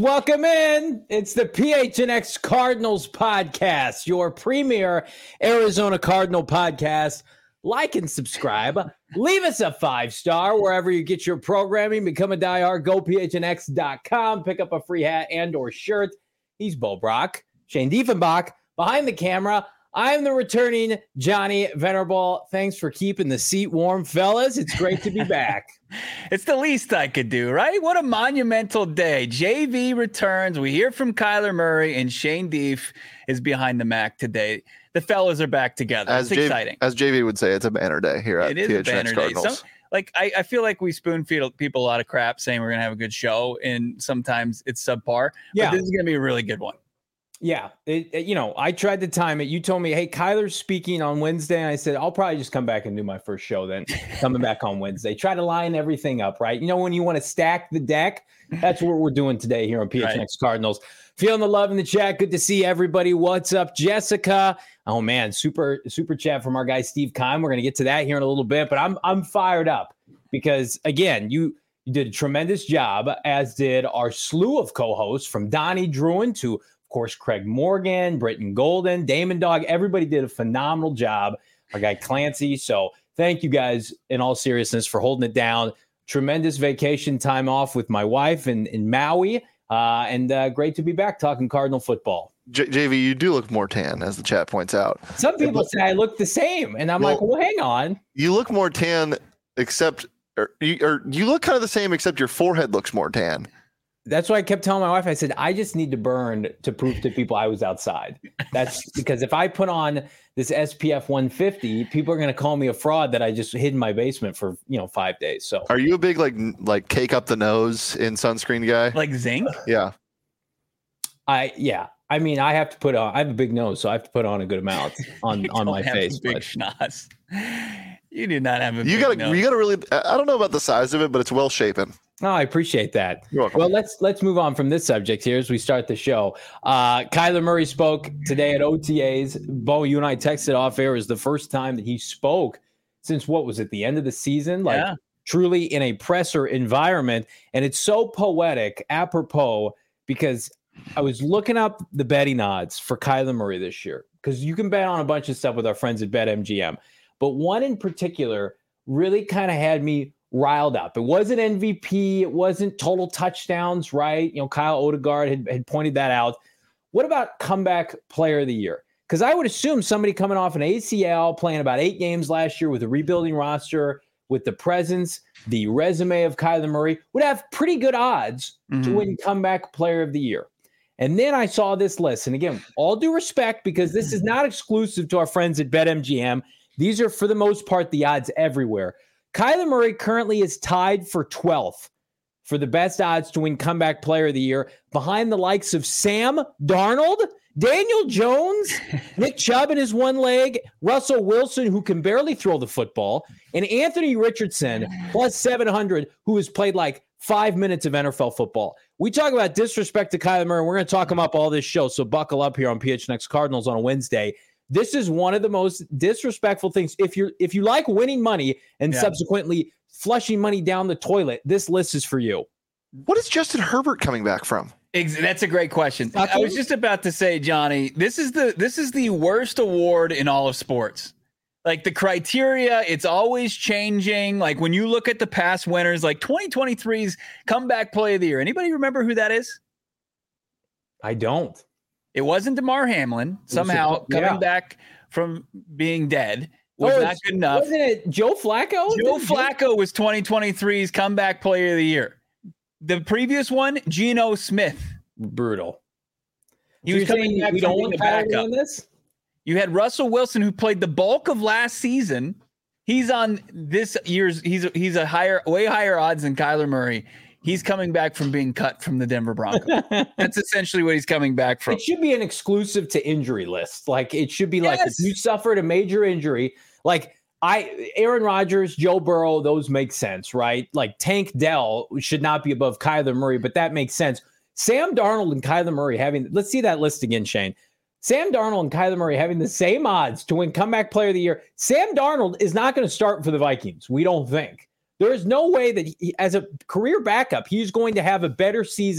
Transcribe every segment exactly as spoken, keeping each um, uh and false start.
welcome in. It's the P H N X Cardinals podcast, your premier Arizona Cardinal podcast. Like and subscribe. Leave us a five-star wherever you get your programming. Become a diehard. Go P H N X dot com. Pick up a free hat and or shirt. He's Bo Brock. Shane Diefenbach. Behind the camera, I'm the returning Johnny Venerable. Thanks for keeping the seat warm, fellas. It's great to be back. It's the least I could do, right? What a monumental day. J V returns. We hear from Kyler Murray, and Shane Dief is behind the Mac today. The fellas are back together. As it's J- exciting. As J V would say, it's a banner day here at it is P H N X a banner Cardinals. Day. Some, like I, I feel like we spoon feed people a lot of crap saying we're going to have a good show, and sometimes it's subpar. Yeah. But this is going to be a really good one. Yeah, it, it, you know, I tried to time it. You told me, hey, Kyler's speaking on Wednesday. And I said, I'll probably just come back and do my first show then, coming back on Wednesday. Try to line everything up, right? You know, when you want to stack the deck, that's what we're doing today here on P H N X right. Cardinals. Feeling the love in the chat. Good to see everybody. What's up, Jessica? Oh, man, super, super chat from our guy, Steve Kime. We're going to get to that here in a little bit, but I'm I'm fired up because, again, you, you did a tremendous job, as did our slew of co-hosts from Donnie Druin to of course, Craig Morgan, Britton Golden, Damon Dog, everybody did a phenomenal job. Our guy Clancy. So thank you guys in all seriousness for holding it down. Tremendous vacation time off with my wife in, in Maui. Uh, and uh, great to be back talking Cardinal football. J- JV, you do look more tan, as the chat points out. Some people say I look the same. And I'm well, like, well, hang on. You look more tan, except or you, or you look kind of the same, except your forehead looks more tan. That's why I kept telling my wife, I said, I just need to burn to prove to people I was outside. That's because if I put on this S P F one fifty, people are going to call me a fraud that I just hid in my basement for, you know, five days. So are you a big, like, like cake up the nose in sunscreen guy? Like zinc? Yeah. I, yeah. I mean, I have to put on, I have a big nose, so I have to put on a good amount on, on my face. Big but. schnoz. You do not have a you big gotta, nose. You got to really, I don't know about the size of it, but it's well shapen. Oh, I appreciate that. You're welcome. Well, let's let's move on from this subject here as we start the show. Uh, Kyler Murray spoke today at O T As. Bo, you and I texted off air. It was the first time that he spoke since, what was it, the end of the season? Like yeah. truly in a presser environment. And it's so poetic, apropos, because I was looking up the betting odds for Kyler Murray this year, because you can bet on a bunch of stuff with our friends at BetMGM. But one in particular really kind of had me riled up. It wasn't M V P. It wasn't total touchdowns, right? You know, Kyle Odegaard had, had pointed that out. What about comeback player of the year? Because I would assume somebody coming off an A C L, playing about eight games last year with a rebuilding roster, with the presence, the resume of Kyler Murray, would have pretty good odds mm-hmm. to win comeback player of the year. And then I saw this list. And again, all due respect, because this is not exclusive to our friends at BetMGM. These are, for the most part, the odds everywhere. Kyler Murray currently is tied for twelfth for the best odds to win comeback player of the year, behind the likes of Sam Darnold, Daniel Jones, Nick Chubb in his one leg, Russell Wilson, who can barely throw the football, and Anthony Richardson, plus seven hundred, who has played like five minutes of N F L football. We talk about disrespect to Kyler Murray. We're going to talk him up all this show, so buckle up here on P H N X Cardinals on a Wednesday. This is one of the most disrespectful things. If you're if you like winning money and yeah. subsequently flushing money down the toilet, this list is for you. What is Justin Herbert coming back from? That's a great question. I was just about to say, Johnny, this is the this is the worst award in all of sports. Like the criteria, it's always changing. Like when you look at the past winners, like twenty twenty-three's comeback play of the year. Anybody remember who that is? I don't. It wasn't DeMar Hamlin. Somehow yeah. coming back from being dead was oh, not good enough. Wasn't it Joe Flacco? Joe Flacco was twenty twenty-three's comeback player of the year. The previous one, Geno Smith. Brutal. He so was coming back we from don't being want a backup. This? You had Russell Wilson, who played the bulk of last season. He's on this year's. He's he's a higher, way higher odds than Kyler Murray. He's coming back from being cut from the Denver Broncos. That's essentially what he's coming back from. It should be an exclusive to injury list. Like it should be yes. like if you suffered a major injury, like I, Aaron Rodgers, Joe Burrow, those make sense, right? Like Tank Dell should not be above Kyler Murray, but that makes sense. Sam Darnold and Kyler Murray having, let's see that list again, Shane. Sam Darnold and Kyler Murray having the same odds to win comeback player of the year. Sam Darnold is not going to start for the Vikings. We don't think. There is no way that he, as a career backup, he's going to have a better season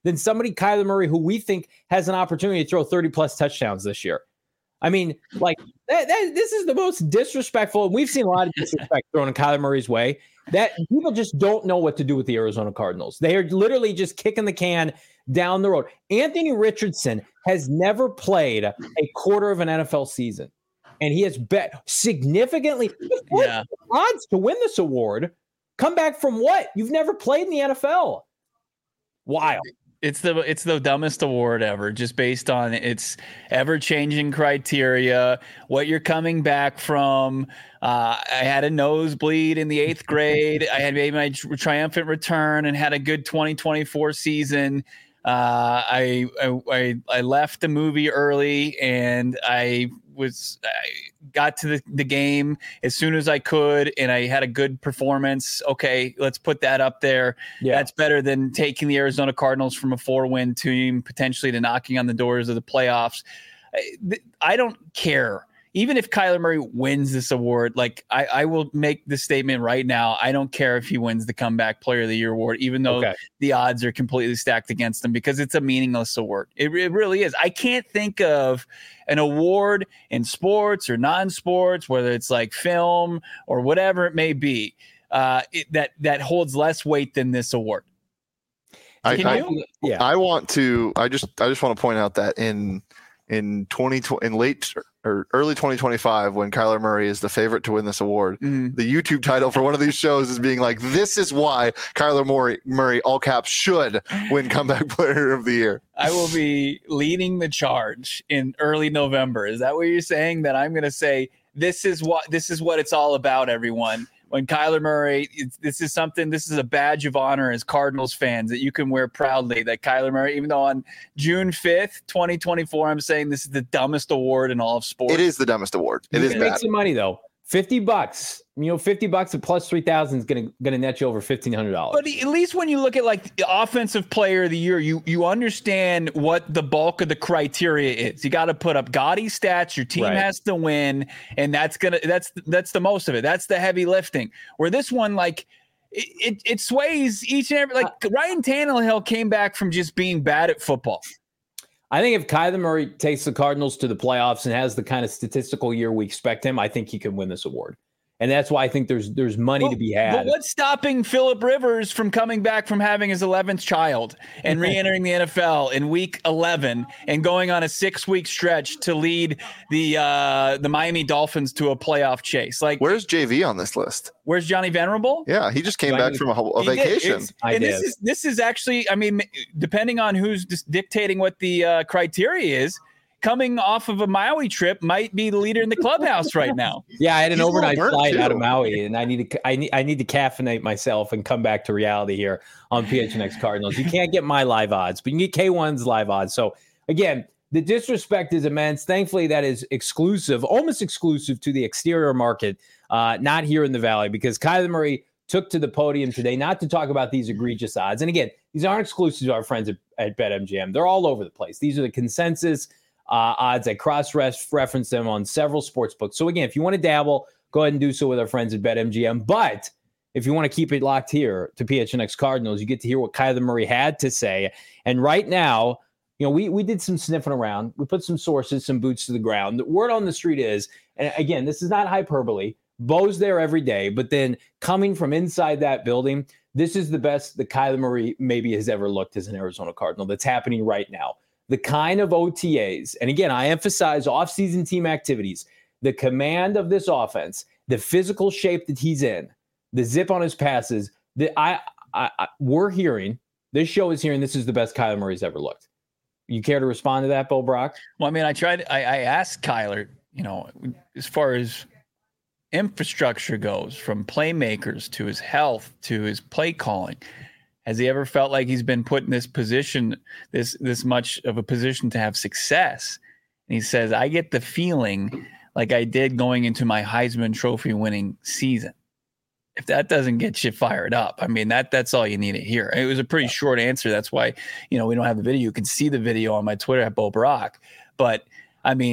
than somebody, Kyler Murray, who we think has an opportunity to throw thirty plus touchdowns this year. I mean, like that, that, this is the most disrespectful. And we've seen a lot of disrespect thrown in Kyler Murray's way that people just don't know what to do with the Arizona Cardinals. They are literally just kicking the can down the road. Anthony Richardson has never played a quarter of an N F L season, and he has bet significantly yeah. odds to win this award. Come back from what? You've never played in the N F L. Wild. It's the it's the dumbest award ever, just based on its ever-changing criteria, what you're coming back from. Uh, I had a nosebleed in the eighth grade. I had made my triumphant return and had a good twenty twenty-four season. Uh, I, I I left the movie early, and I was I got to the, the game as soon as I could, and I had a good performance. Okay, let's put that up there. Yeah. That's better than taking the Arizona Cardinals from a four-win team potentially to knocking on the doors of the playoffs. I, I don't care. Even if Kyler Murray wins this award, like I, I will make the statement right now. I don't care if he wins the Comeback Player of the Year award, even though okay. the odds are completely stacked against him, because it's a meaningless award. It, it really is. I can't think of an award in sports or non-sports, whether it's like film or whatever it may be, uh, it, that that holds less weight than this award. I, I, yeah. I want to. I just. I just want to point out that in in twenty in late. or early twenty twenty-five, when Kyler Murray is the favorite to win this award, mm-hmm. the YouTube title for one of these shows is being like, this is why Kyler Murray, Murray, all caps, should win Comeback Player of the Year. I will be leading the charge in early November. Is that what you're saying? That I'm going to say, this is what, this is what it's all about, everyone. When Kyler Murray, this is something, this is a badge of honor as Cardinals fans that you can wear proudly, that Kyler Murray, even though on June fifth, twenty twenty-four, I'm saying this is the dumbest award in all of sports. It is the dumbest award. It you is can bad. Make some money though. fifty bucks, you know, fifty bucks at plus three thousand is going to, going to net you over fifteen hundred dollars. But at least when you look at like the offensive player of the year, you, you understand what the bulk of the criteria is. You got to put up gaudy stats. Your team right. has to win. And that's going to, that's, that's the most of it. That's the heavy lifting, where this one, like it, it, it sways each and every, like uh, Ryan Tannehill came back from just being bad at football. I think if Kyler Murray takes the Cardinals to the playoffs and has the kind of statistical year we expect him, I think he can win this award. And that's why I think there's there's money well, to be had. But what's stopping Phillip Rivers from coming back from having his eleventh child and re-entering the N F L in week eleven and going on a six-week stretch to lead the uh, the Miami Dolphins to a playoff chase? Like, where's J V on this list? Where's Johnny Venerable? Yeah, he just came back from a, a vacation. And did. this is this is actually, I mean, depending on who's dictating what the uh, criteria is, coming off of a Maui trip might be the leader in the clubhouse right now. Yeah, I had an He's overnight flight too. out of Maui, and I need to I need I need to caffeinate myself and come back to reality here on P H N X Cardinals. You can't get my live odds, but you can get K one's live odds. So again, the disrespect is immense. Thankfully, that is exclusive, almost exclusive to the exterior market, uh, not here in the Valley, because Kyler Murray took to the podium today not to talk about these egregious odds. And again, these aren't exclusive to our friends at, at BetMGM. They're all over the place. These are the consensus Uh, odds. I cross-reference them on several sports books. So again, if you want to dabble, go ahead and do so with our friends at BetMGM. But if you want to keep it locked here to P H N X Cardinals, you get to hear what Kyler Murray had to say. And right now, you know, we we did some sniffing around. We put some sources, some boots to the ground. The word on the street is, and again, this is not hyperbole, Bo's there every day, but then coming from inside that building, this is the best that Kyler Murray maybe has ever looked as an Arizona Cardinal. That's happening right now. The kind of O T As, and again, I emphasize off-season team activities, the command of this offense, the physical shape that he's in, the zip on his passes, that I, I, I we're hearing, this show is hearing this is the best Kyler Murray's ever looked. You care to respond to that, Bo Brock? Well, I mean, I tried, I, I asked Kyler, you know, as far as infrastructure goes, from playmakers to his health to his play calling, has he ever felt like he's been put in this position, this this much of a position to have success? And he says, I get the feeling like I did going into my Heisman Trophy winning season. If that doesn't get you fired up, I mean, that that's all you need to hear. It was a pretty short answer. That's why, you know, we don't have the video. You can see the video on my Twitter at Bo Brock. But, I mean,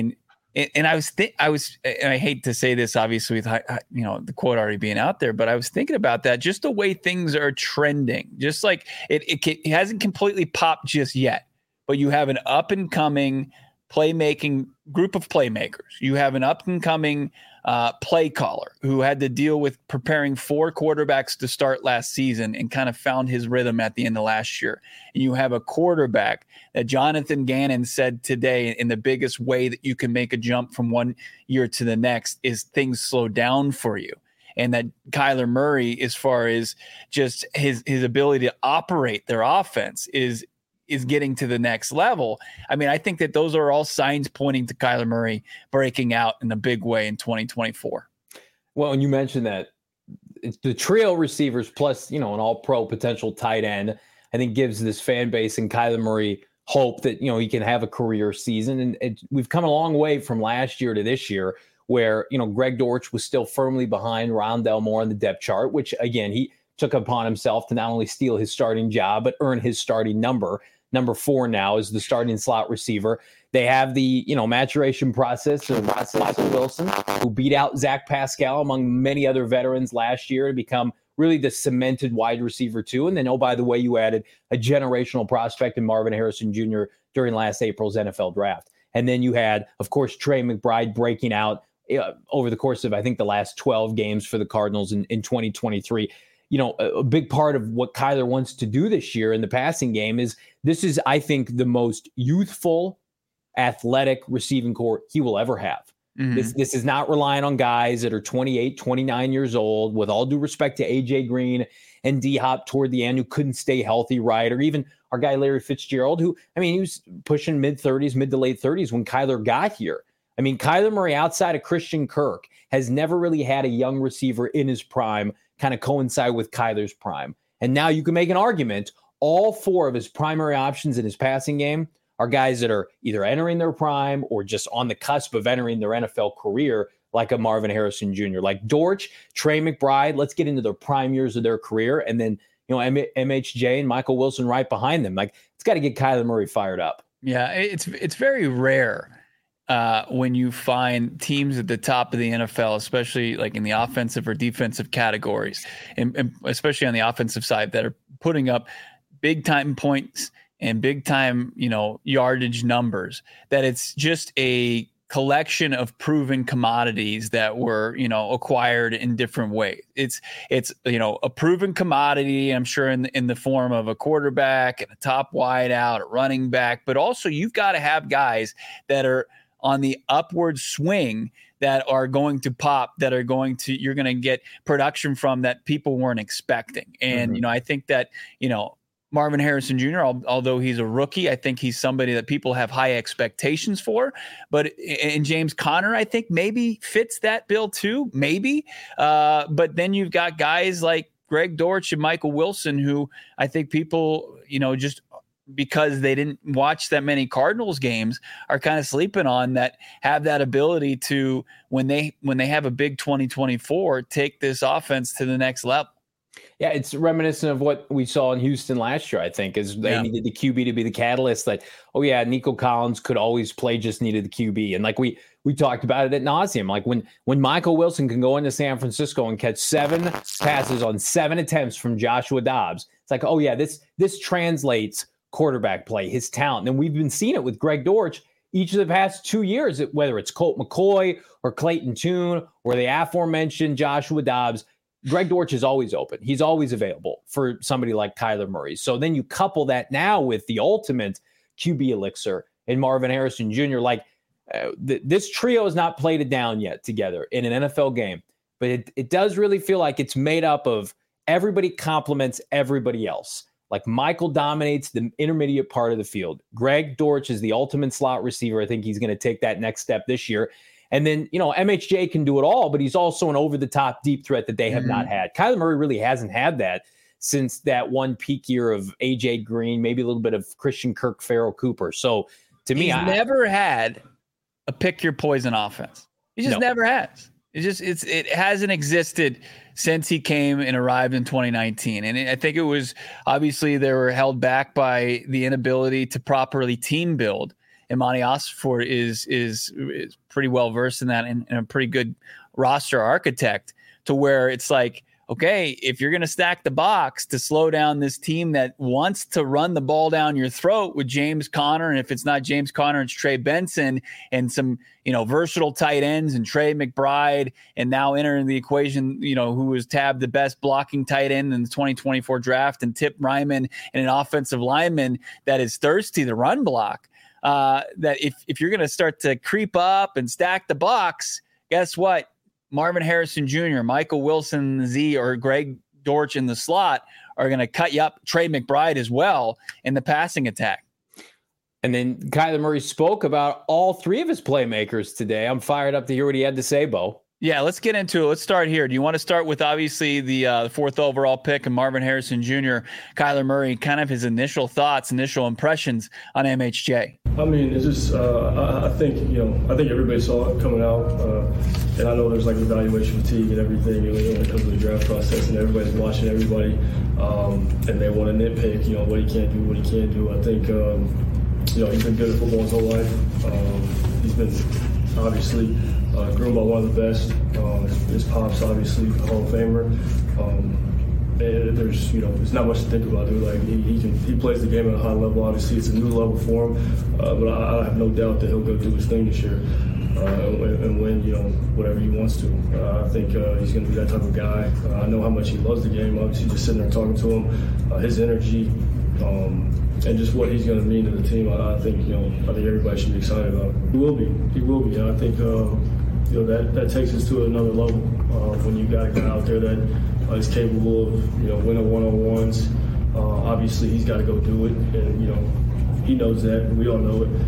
And, and I was, th- I was, and I hate to say this, obviously, with you know the quote already being out there, but I was thinking about that, just the way things are trending, just like it, it, it hasn't completely popped just yet, but you have an up and coming playmaking group of playmakers. You have an up and coming uh, play caller who had to deal with preparing four quarterbacks to start last season and kind of found his rhythm at the end of last year. And you have a quarterback that Jonathan Gannon said today, in the biggest way that you can make a jump from one year to the next is things slow down for you. And that Kyler Murray, as far as just his, his ability to operate their offense, is is getting to the next level. I mean, I think that those are all signs pointing to Kyler Murray breaking out in a big way in twenty twenty-four. Well, and you mentioned that it's the trio receivers plus, you know, an all-pro potential tight end, I think gives this fan base and Kyler Murray hope that, you know, he can have a career season. And it, we've come a long way from last year to this year where, you know, Greg Dortch was still firmly behind Rondale Moore on the depth chart, which, again, he took upon himself to not only steal his starting job, but earn his starting number. Number four now is the starting slot receiver. They have the, you know, maturation process of Michael Wilson, who beat out Zach Pascal among many other veterans last year to become really the cemented wide receiver too. And then, oh, by the way, you added a generational prospect in Marvin Harrison Junior during last April's N F L draft. And then you had, of course, Trey McBride breaking out uh, over the course of, I think, the last twelve games for the Cardinals in, in twenty twenty-three. You know, a, a big part of what Kyler wants to do this year in the passing game is this is, I think, the most youthful, athletic receiving corps he will ever have. Mm-hmm. This this is not relying on guys that are twenty-eight, twenty-nine years old, with all due respect to A J Green and D-Hop toward the end, who couldn't stay healthy, right? Or even our guy Larry Fitzgerald, who, I mean, he was pushing mid-thirties, mid to late thirties when Kyler got here. I mean, Kyler Murray, outside of Christian Kirk, has never really had a young receiver in his prime kind of coincide with Kyler's prime. And now you can make an argument all four of his primary options in his passing game are guys that are either entering their prime or just on the cusp of entering their N F L career, like a Marvin Harrison Junior, like Dortch, Trey McBride. Let's get into their prime years of their career. And then, you know, M H J and Michael Wilson right behind them. Like, it's got to get Kyler Murray fired up. Yeah, it's it's very rare uh, when you find teams at the top of the N F L, especially like in the offensive or defensive categories, and, and especially on the offensive side, that are putting up big time points and big time, you know, yardage numbers, that it's just a collection of proven commodities that were, you know, acquired in different ways. It's, it's, you know, a proven commodity, I'm sure, in the, in the form of a quarterback and a top wide out, a running back, but also you've got to have guys that are on the upward swing that are going to pop, that are going to, you're going to get production from that people weren't expecting. And, mm-hmm. you know, I think that, you know, Marvin Harrison Junior, although he's a rookie, I think he's somebody that people have high expectations for. But and James Conner, I think, maybe fits that bill too, maybe. Uh, but then you've got guys like Greg Dortch and Michael Wilson, who I think people, you know, just because they didn't watch that many Cardinals games, are kind of sleeping on, that have that ability to, when they when they have a big twenty twenty-four, take this offense to the next level. Yeah, it's reminiscent of what we saw in Houston last year, I think, is they yeah. needed the Q B to be the catalyst. That, oh, yeah, Nico Collins could always play, just needed the Q B. And like we we talked about it at nauseum, like when when Michael Wilson can go into San Francisco and catch seven passes on seven attempts from Joshua Dobbs, it's like, oh, yeah, this this translates quarterback play, his talent. And we've been seeing it with Greg Dortch each of the past two years, whether it's Colt McCoy or Clayton Tune or the aforementioned Joshua Dobbs. Greg Dortch is always open. He's always available for somebody like Kyler Murray. So then you couple that now with the ultimate Q B elixir in Marvin Harrison Junior Like uh, th- this trio has not played it down yet together in an N F L game, but it, it does really feel like it's made up of everybody complements everybody else. Like Michael dominates the intermediate part of the field. Greg Dortch is the ultimate slot receiver. I think he's going to take that next step this year. And then, you know, M H J can do it all, but he's also an over-the-top deep threat that they have mm-hmm. not had. Kyler Murray really hasn't had that since that one peak year of A J Green, maybe a little bit of Christian Kirk, Farrell Cooper. So, to me, he's I never had a pick-your-poison offense. He just no. never has. It just it's it hasn't existed since he came and arrived in twenty nineteen. And I think it was, obviously, they were held back by the inability to properly team build. Imani Osford is, is, is pretty well versed in that and, and a pretty good roster architect to where it's like, okay, if you're going to stack the box to slow down this team that wants to run the ball down your throat with James Conner, and if it's not James Conner, it's Trey Benson and some, you know, versatile tight ends and Trey McBride, and now entering the equation, you know, who was tabbed the best blocking tight end in the twenty twenty-four draft, and Tip Ryman, and an offensive lineman that is thirsty to run block. Uh, that if if you're going to start to creep up and stack the box, guess what? Marvin Harrison Junior, Michael Wilson Z, or Greg Dortch in the slot are going to cut you up. Trey McBride as well in the passing attack. And then Kyler Murray spoke about all three of his playmakers today. I'm fired up to hear what he had to say, Bo. Yeah, let's get into it. Let's start here. Do you want to start with obviously the uh, the fourth overall pick and Marvin Harrison Junior, Kyler Murray, kind of his initial thoughts, initial impressions on M H J? I mean, it's just uh, I, I think you know I think everybody saw it coming out, uh, and I know there's like evaluation fatigue and everything you know, when it comes to the draft process, and everybody's watching everybody, um, and they want to nitpick, you know, what he can't do, what he can't do. I think um, you know he's been good at football his whole life. Um, he's been obviously uh, groomed by one of the best. Um, his, his pop's obviously a Hall of Famer. Um, and there's, you know, there's not much to think about, dude. Like he, he can, he plays the game at a high level. Obviously, it's a new level for him. Uh, but I, I have no doubt that he'll go do his thing this year uh, and, and win, you know, whatever he wants to. Uh, I think uh, he's going to be that type of guy. Uh, I know how much he loves the game. Obviously, just sitting there talking to him, uh, his energy. Um, And just what he's going to mean to the team, I, I think you know, I think everybody should be excited about. He will be, he will be. I think uh, you know that, that takes us to another level uh, when you got a guy out there that uh, is capable of you know winning one-on-ones. Uh, obviously, he's got to go do it, and you know he knows that, and we all know it.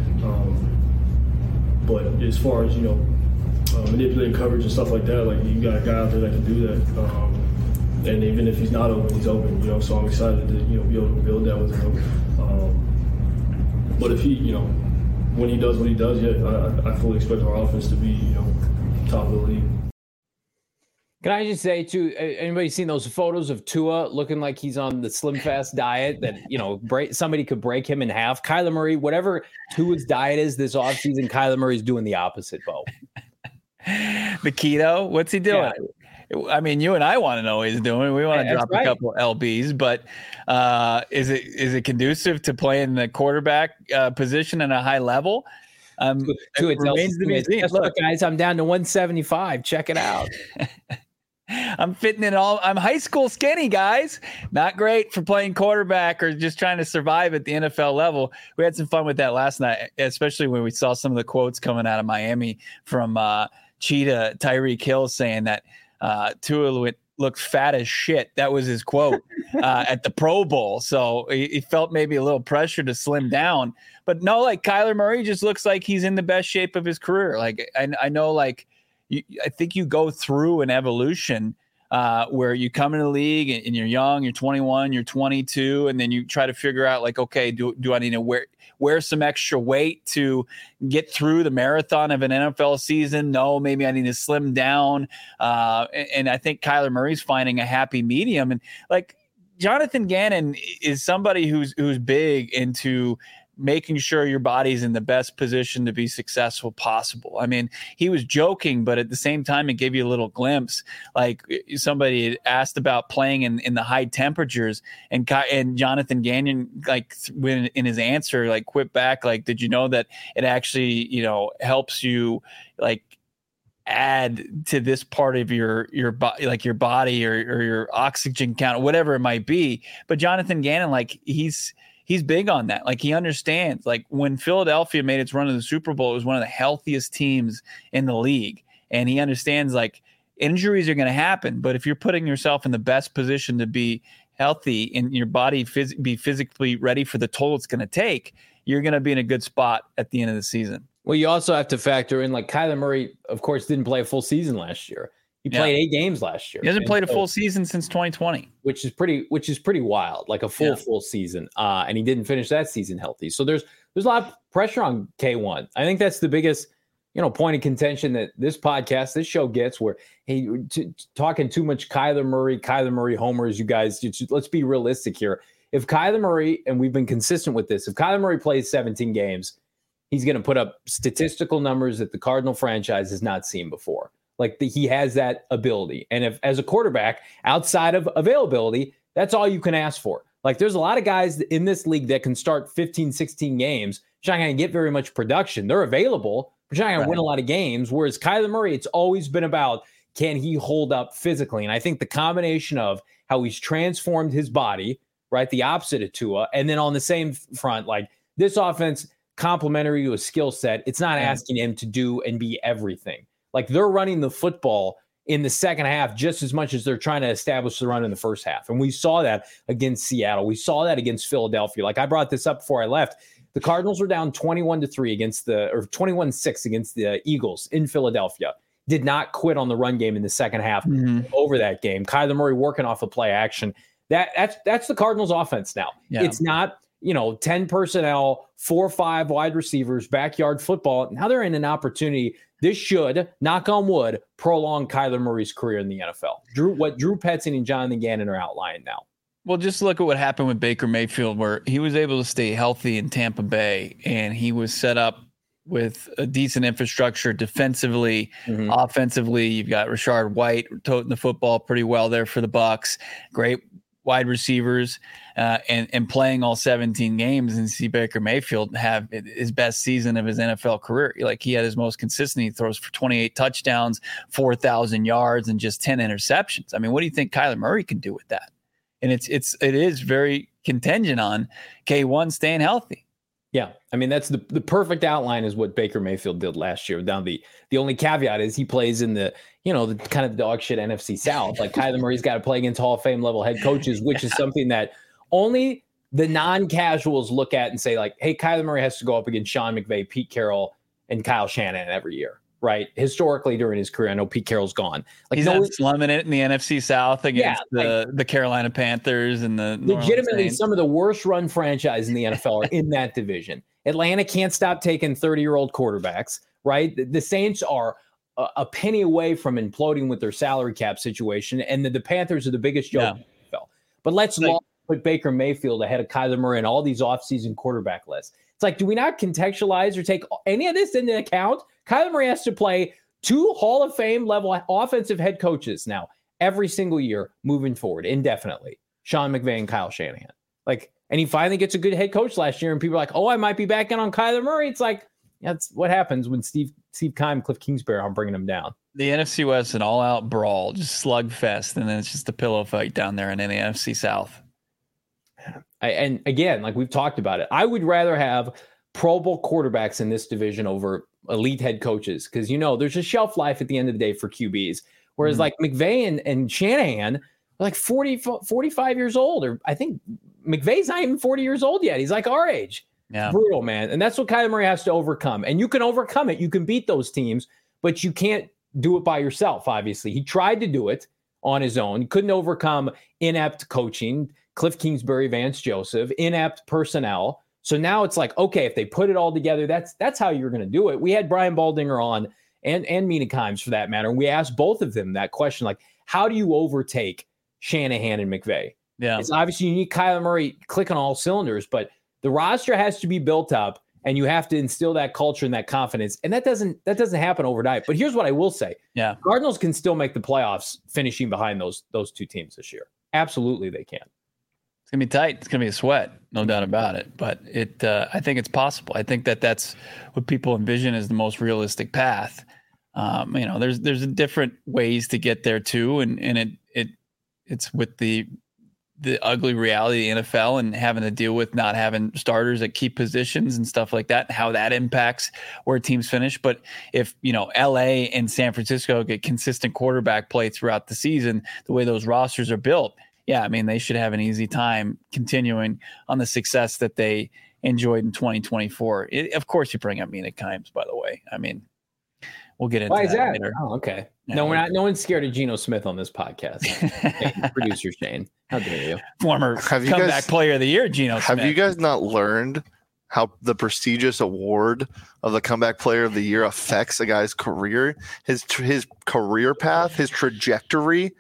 Um, but as far as you know, uh, manipulating coverage and stuff like that, like you got a guy out there that can do that. Um, And even if he's not open, he's open, you know, so I'm excited to, you know, be able to build that with him. Um, but if he, you know, when he does what he does, yeah, I, I fully expect our offense to be, you know, top of the league. Can I just say, too, anybody seen those photos of Tua looking like he's on the Slim Fast diet that, you know, break, somebody could break him in half? Kyler Murray, whatever Tua's diet is this offseason, Kyler Murray's doing the opposite, Bo. The keto? What's he doing? Yeah. I mean, you and I want to know what he's doing. We want to drop right. a couple of L Bs, but uh, is it is it conducive to playing the quarterback uh, position at a high level? Um, to, to it remains to be seen. Look, guys, I'm down to one seventy-five. Check it out. I'm fitting in all. I'm high school skinny, guys. Not great for playing quarterback or just trying to survive at the N F L level. We had some fun with that last night, especially when we saw some of the quotes coming out of Miami from uh, Cheetah Tyreek Hill saying that. Uh, Tua looked fat as shit. That was his quote uh, at the Pro Bowl. So he, he felt maybe a little pressure to slim down. But no, like Kyler Murray just looks like he's in the best shape of his career. Like I, I know, like you, I think you go through an evolution uh, where you come in the league and, and you're young, you're twenty-one, you're twenty-two, and then you try to figure out like, okay, do do I need to wear wear some extra weight to get through the marathon of an N F L season? No, maybe I need to slim down. Uh, and, and I think Kyler Murray's finding a happy medium. And like Jonathan Gannon is somebody who's who's big into making sure your body's in the best position to be successful possible. I mean, he was joking, but at the same time, it gave you a little glimpse. Like somebody had asked about playing in, in the high temperatures, and and Jonathan Gannon, like when in his answer, like quit back, like, did you know that it actually, you know, helps you like add to this part of your your body, like your body or, or your oxygen count, or whatever it might be. But Jonathan Gannon, like he's He's big on that. Like he understands, like when Philadelphia made its run to the Super Bowl, it was one of the healthiest teams in the league. And he understands like injuries are going to happen, but if you're putting yourself in the best position to be healthy and your body phys- be physically ready for the toll it's going to take, you're going to be in a good spot at the end of the season. Well, you also have to factor in like Kyler Murray, of course, didn't play a full season last year. He played yeah. eight games last year. He hasn't and played a so, full season since twenty twenty, which is pretty, which is pretty wild, like a full, yeah. full season. Uh, and he didn't finish that season healthy. So there's, there's a lot of pressure on K one. I think that's the biggest, you know, point of contention that this podcast, this show gets where, hey, t- talking too much Kyler Murray, Kyler Murray homers, you guys, just, let's be realistic here. If Kyler Murray, and we've been consistent with this, if Kyler Murray plays seventeen games, he's going to put up statistical numbers that the Cardinal franchise has not seen before. Like the, he has that ability. And if as a quarterback, outside of availability, that's all you can ask for. Like there's a lot of guys in this league that can start fifteen, sixteen games. You're not going to get very much production. They're available, but you're not going right. to win a lot of games. Whereas Kyler Murray, it's always been about, can he hold up physically? And I think the combination of how he's transformed his body, right, the opposite of Tua, and then on the same front, like this offense, complementary to a skill set, it's not asking him to do and be everything. Like they're running the football in the second half just as much as they're trying to establish the run in the first half. And we saw that against Seattle. We saw that against Philadelphia. Like I brought this up before I left. The Cardinals were down twenty-one to three against the, or twenty-one to six against the Eagles in Philadelphia. Did not quit on the run game in the second half mm-hmm. over that game. Kyler Murray working off of play action. That that's that's the Cardinals offense now. Yeah. It's not, you know, ten personnel, four or five wide receivers, backyard football. Now they're in an opportunity. This should, knock on wood, prolong Kyler Murray's career in the N F L. Drew, what Drew Petzing and Jonathan Gannon are outlining now. Well, just look at what happened with Baker Mayfield, where he was able to stay healthy in Tampa Bay, and he was set up with a decent infrastructure defensively, mm-hmm. offensively. You've got Rashard White toting the football pretty well there for the Bucs. Great wide receivers, uh, and and playing all seventeen games, and see Baker Mayfield have his best season of his N F L career. Like he had his most consistent. He throws for twenty-eight touchdowns, four thousand yards, and just ten interceptions. I mean, what do you think Kyler Murray can do with that? And it's it's it is very contingent on K one staying healthy. Yeah, I mean that's the the perfect outline is what Baker Mayfield did last year. Now the the only caveat is he plays in the you know the kind of dog shit N F C South. Like Kyler Murray's got to play against Hall of Fame level head coaches, which is something that only the non-casuals look at and say like, hey, Kyler Murray has to go up against Sean McVay, Pete Carroll, and Kyle Shanahan every year. Right. Historically during his career, I know Pete Carroll's gone. Like he's no, not slumming it in the N F C South against yeah, the, like, the Carolina Panthers and the legitimately some of the worst run franchise in the N F L are in that division. Atlanta can't stop taking thirty-year-old quarterbacks, right? The, the Saints are a, a penny away from imploding with their salary cap situation, and the, the Panthers are the biggest joke yeah. in the N F L. But let's like, put Baker Mayfield ahead of Kyler Murray and all these offseason quarterback lists. It's like, do we not contextualize or take any of this into account? Kyler Murray has to play two Hall of Fame level offensive head coaches now every single year moving forward indefinitely. Sean McVay and Kyle Shanahan. Like, and he finally gets a good head coach last year, and people are like, oh, I might be back in on Kyler Murray. It's like, that's what happens when Steve Steve Keim, Cliff Kingsbury are bringing him down. The N F C West, an all-out brawl, just slugfest, and then it's just a pillow fight down there in the N F C South. I, and again, like we've talked about it, I would rather have Pro Bowl quarterbacks in this division over elite head coaches because, you know, there's a shelf life at the end of the day for Q Bs. Whereas mm-hmm. like McVay and, and Shanahan are like forty, forty-five years old, or I think McVay's not even forty years old yet. He's like our age. Yeah. Brutal, man. And that's what Kyler Murray has to overcome. And you can overcome it. You can beat those teams, but you can't do it by yourself, obviously. He tried to do it on his own. He couldn't overcome inept coaching, Cliff Kingsbury, Vance Joseph, inept personnel. So now it's like, okay, if they put it all together, that's that's how you're going to do it. We had Brian Baldinger on and, and Mina Kimes for that matter. And we asked both of them that question, like, how do you overtake Shanahan and McVay? Yeah. It's obviously you need Kyler Murray clicking all cylinders, but the roster has to be built up and you have to instill that culture and that confidence. And that doesn't that doesn't happen overnight. But here's what I will say. Yeah. Cardinals can still make the playoffs finishing behind those those two teams this year. Absolutely they can. It's gonna be tight. It's gonna be a sweat, no doubt about it. But it, uh, I think it's possible. I think that that's what people envision as the most realistic path. Um, you know, there's there's different ways to get there too, and and it it it's with the the ugly reality of the N F L and having to deal with not having starters at key positions and stuff like that, and how that impacts where teams finish. But if, you know, L A and San Francisco get consistent quarterback play throughout the season, the way those rosters are built, yeah, I mean, they should have an easy time continuing on the success that they enjoyed in twenty twenty-four. It, of course, you bring up Mina Kimes, by the way. I mean, we'll get into Why is that, that later. Oh, okay. Yeah, no, we're not. No one's scared of Geno Smith on this podcast. Hey, producer Shane, how dare you? Former have you comeback guys, player of the year, Geno Smith. Have you guys not learned how the prestigious award of the comeback player of the year affects a guy's career, his his career path, his trajectory?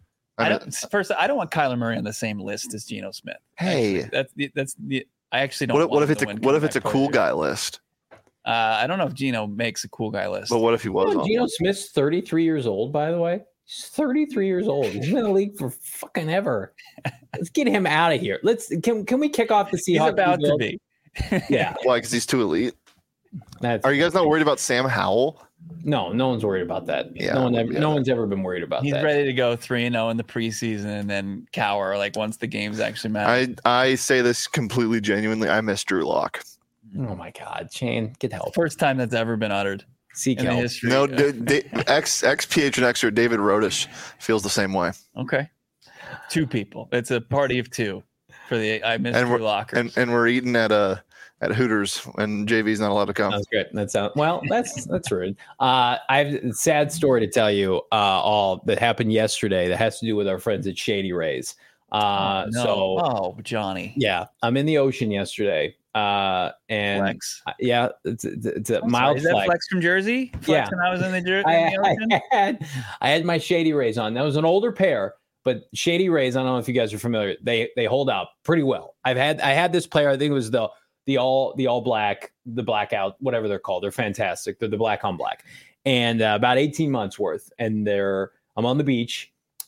I don't, first, I don't want Kyler Murray on the same list as Geno Smith. Hey, actually, that's that's the. I actually don't. What, want what if it's a what if it's a cool guy list? Uh, I don't know if Geno makes a cool guy list. But what if he was? You know, Geno Smith's thirty-three years old, by the way. He's thirty-three years old. He's been in the league for fucking ever. Let's get him out of here. Let's can can we kick off the Seahawks? He's about to be. Yeah. Why? Because he's too elite. That's, Are you guys not worried about Sam Howell? No, no one's worried about that. Yeah, no one ever, yeah. no one's ever been worried about He's that. He's ready to go three and zero in the preseason and then cower like once the games actually matter. I I say this completely genuinely. I miss Drew Lock. Oh my God, Shane, get help. First time that's ever been uttered. Seek in the help. history. No, d- d- ex ex P H N X or David Rodish feels the same way. Okay, two people. It's a party of two for the I miss and Drew we're, Lockers. and and we're eating at a at Hooters and J V's not allowed to come. That's good. That sounds well. That's that's rude. Uh, I have a sad story to tell you. Uh, all that happened yesterday that has to do with our friends at Shady Rays. Uh, oh, no. so oh, Johnny. Yeah, I'm in the ocean yesterday. Uh, and flex. yeah, it's, it's, it's a I'm mild sorry, is that flex. flex from Jersey. Flex Yeah. when I was in the Jersey. I, I had I had my Shady Rays on. That was an older pair, but Shady Rays. I don't know if you guys are familiar. They they hold out pretty well. I've had I had this player. I think it was the the all the all black, the blackout, whatever they're called. They're fantastic. They're the black on black, and uh, about eighteen months worth. And they're I'm on the beach.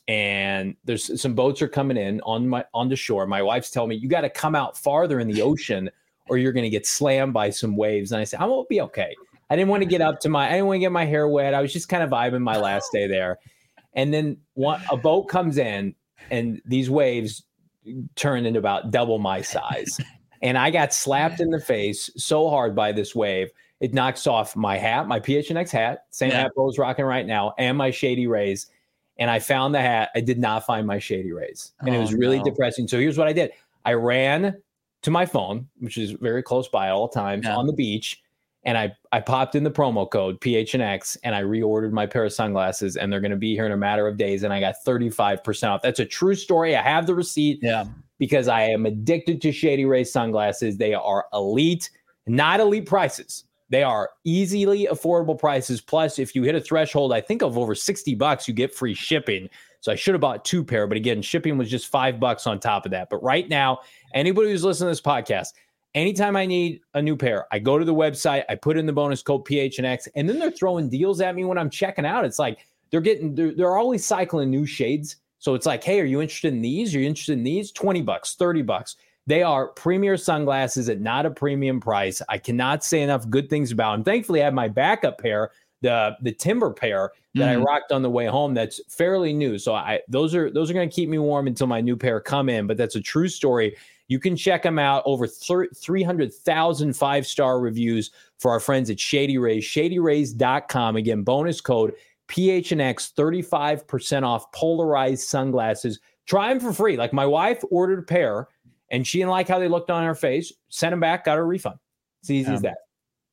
And there's some boats are coming in on my on the shore. My wife's telling me you got to come out farther in the ocean, or you're going to get slammed by some waves. And I said, I won't be okay. I didn't want to get up to my, I didn't want to get my hair wet. I was just kind of vibing my last day there. And then one, a boat comes in, and these waves turned into about double my size. And I got slapped in the face so hard by this wave, it knocks off my hat, my P H N X hat, same Yeah. hat Bo's rocking right now, and my Shady Rays. And I found the hat. I did not find my Shady Rays. And Oh, it was really no. depressing. So here's what I did. I ran to my phone, which is very close by at all times, Yeah. on the beach. And I, I popped in the promo code P H N X, and I reordered my pair of sunglasses, and they're going to be here in a matter of days. And I got thirty-five percent off. That's a true story. I have the receipt Yeah. because I am addicted to Shady Rays sunglasses. They are elite, not elite prices. They are easily affordable prices. Plus, if you hit a threshold, I think of over sixty bucks, you get free shipping. So I should have bought two pair, but again, shipping was just five bucks on top of that. But right now, anybody who's listening to this podcast, anytime I need a new pair, I go to the website, I put in the bonus code P H N X, and then they're throwing deals at me when I'm checking out. It's like they're getting, they're, they're always cycling new shades. So it's like, hey, are you interested in these? Are you interested in these? twenty bucks, thirty bucks. They are premier sunglasses at not a premium price. I cannot say enough good things about them. Thankfully, I have my backup pair, the the Timber pair that Mhm. I rocked on the way home. That's fairly new. So I those are those are going to keep me warm until my new pair come in. But that's a true story. You can check them out. Over three hundred thousand five-star reviews for our friends at Shady Rays, shady rays dot com. Again, bonus code P H N X, thirty-five percent off polarized sunglasses. Try them for free. Like my wife ordered a pair, and she didn't like how they looked on her face. Sent them back, got her refund. It's easy Yeah. as that.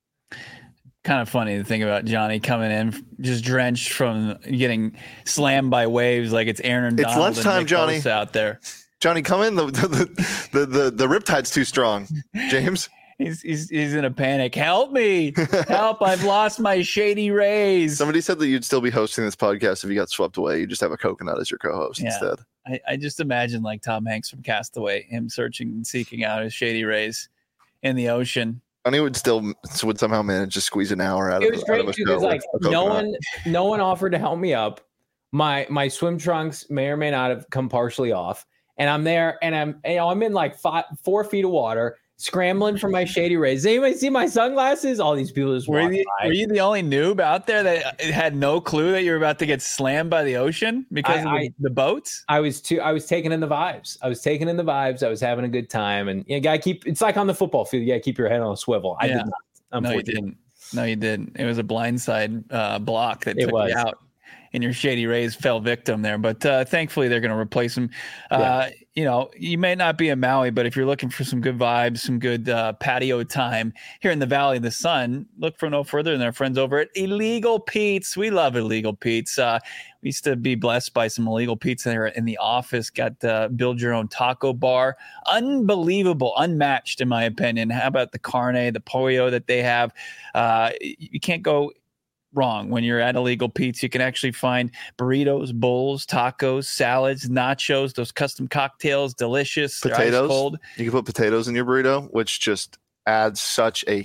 Kind of funny to think about Johnny coming in just drenched from getting slammed by waves like it's Aaron It's Donald lunchtime, and Nick Johnny. Bosa out there. Johnny, come in. The the the the, the riptide's too strong. James, He's, he's he's in a panic. Help me! Help! I've lost my Shady Rays. somebody said that you'd still be hosting this podcast if you got swept away. You just have a coconut as your co-host Yeah. instead. I, I just imagine like Tom Hanks from Castaway, him searching and seeking out his Shady Rays in the ocean. Johnny would still would somehow manage to squeeze an hour out It of, was out great of a too show because like with a no coconut. one no one offered to help me up. My my swim trunks may or may not have come partially off, and I'm there and I'm you know I'm in like five four feet of water, scrambling for my Shady Rays. Does anybody see my sunglasses? All these people just Were walk you, by. were you the only noob out there that had no clue that you were about to get slammed by the ocean because I- of the, I- the boats? I was too. I was taking in the vibes. I was taking in the vibes. I was having a good time, and you got to keep. It's like on the football field. You got to keep your head on a swivel. I Yeah. did not. No, you Unfortunately. didn't. No, you didn't. It was a blindside uh, block that It took was. you out, and your Shady Rays fell victim there. But uh, thankfully, they're going to replace them. Uh, Yeah. You know, you may not be in Maui, but if you're looking for some good vibes, some good uh, patio time here in the Valley of the Sun, look for no further than our friends over at Illegal Pete's. We love Illegal Pete's. Uh, we used to be blessed by some Illegal Pete's there in the office. Got uh, build your own taco bar. Unbelievable, unmatched in my opinion. How about the carne, the pollo that they have? Uh, you can't go wrong when you're at Illegal Pete's. You can actually find burritos, bowls, tacos, salads, nachos, those custom cocktails, delicious. They're ice Potatoes. cold. You can put potatoes in your burrito, which just adds such a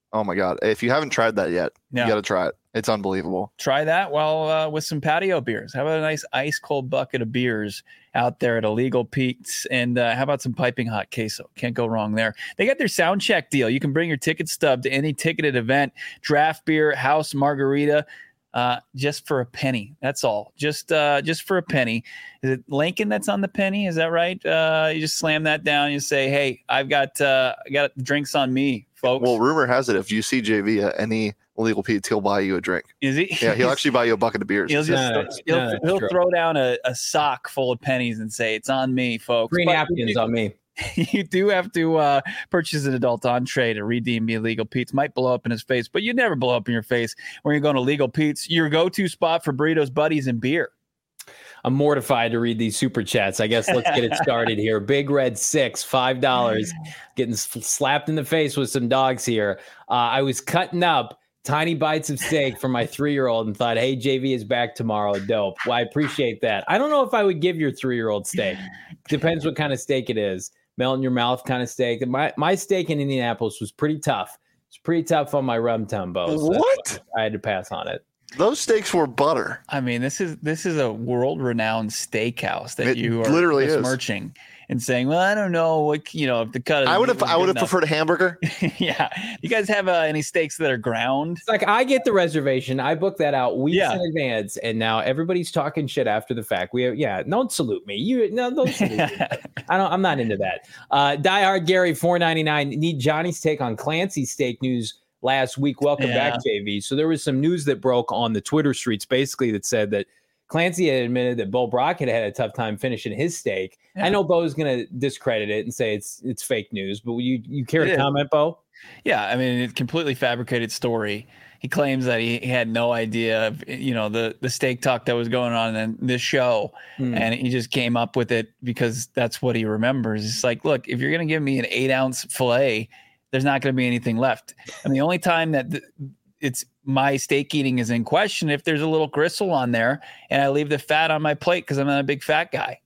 Oh my God. If you haven't tried that yet, yeah. you got to try it. It's unbelievable. Try that while uh, with some patio beers. How about a nice ice cold bucket of beers out there at Illegal Pete's? And uh, how about some piping hot queso? Can't go wrong there. They got their sound check deal. You can bring your ticket stub to any ticketed event, draft beer, house margarita, uh, just for a penny. That's all. Just uh, just for a penny. Is it Lincoln that's on the penny? Is that right? Uh, you just slam that down. You say, hey, I've got uh, I got drinks on me, folks. Well, rumor has it if you see J V at any Illegal Pete's, he'll buy you a drink. Is he? Yeah, he'll actually buy you a bucket of beers. He'll just no, he'll, no, he'll throw down a, a sock full of pennies and say, it's on me, folks. Green but napkins you, on me. You do have to uh, purchase an adult entree to redeem the Illegal Pete's. Might blow up in his face, but you never blow up in your face when you're going to Illegal Pete's, your go-to spot for burritos, buddies, and beer. I'm mortified to read these super chats. I guess let's get it started here. Big Red Six, five dollars, getting slapped in the face with some dogs here. Uh, I was cutting up tiny bites of steak for my three-year-old and thought, hey, J V is back tomorrow. Dope. Well, I appreciate that. I don't know if I would give your three-year-old steak. Depends what kind of steak it is. Melt in your mouth kind of steak. My my steak in Indianapolis was pretty tough. It's pretty tough on my rum tumbo. So what? I had to pass on it. Those steaks were butter. I mean, this is this is a world-renowned steakhouse that it you are literally besmirching and saying, "Well, I don't know what you know if the cut." I would have I would have preferred a hamburger. Yeah, you guys have uh, any steaks that are ground? It's like I get the reservation. I book that out weeks yeah. in advance, and now everybody's talking shit after the fact. We have, yeah, don't salute me. You no, don't salute me. I don't. I'm not into that. Uh, Die Hard Gary four ninety-nine. Need Johnny's take on Clancy's steak news last week. Welcome yeah. back, J V. So there was some news that broke on the Twitter streets, basically that said that Clancy had admitted that Bo Brockett had a tough time finishing his steak. Yeah. I know Bo's going to discredit it and say it's it's fake news, but you you care to comment, Bo? Yeah, I mean, it's a completely fabricated story. He claims that he, he had no idea of, you know, the the steak talk that was going on in this show, mm. and he just came up with it because that's what he remembers. It's like, look, if you're going to give me an eight ounce fillet, there's not going to be anything left. And the only time that th- it's my steak eating is in question if there's a little gristle on there and I leave the fat on my plate because I'm not a big fat guy.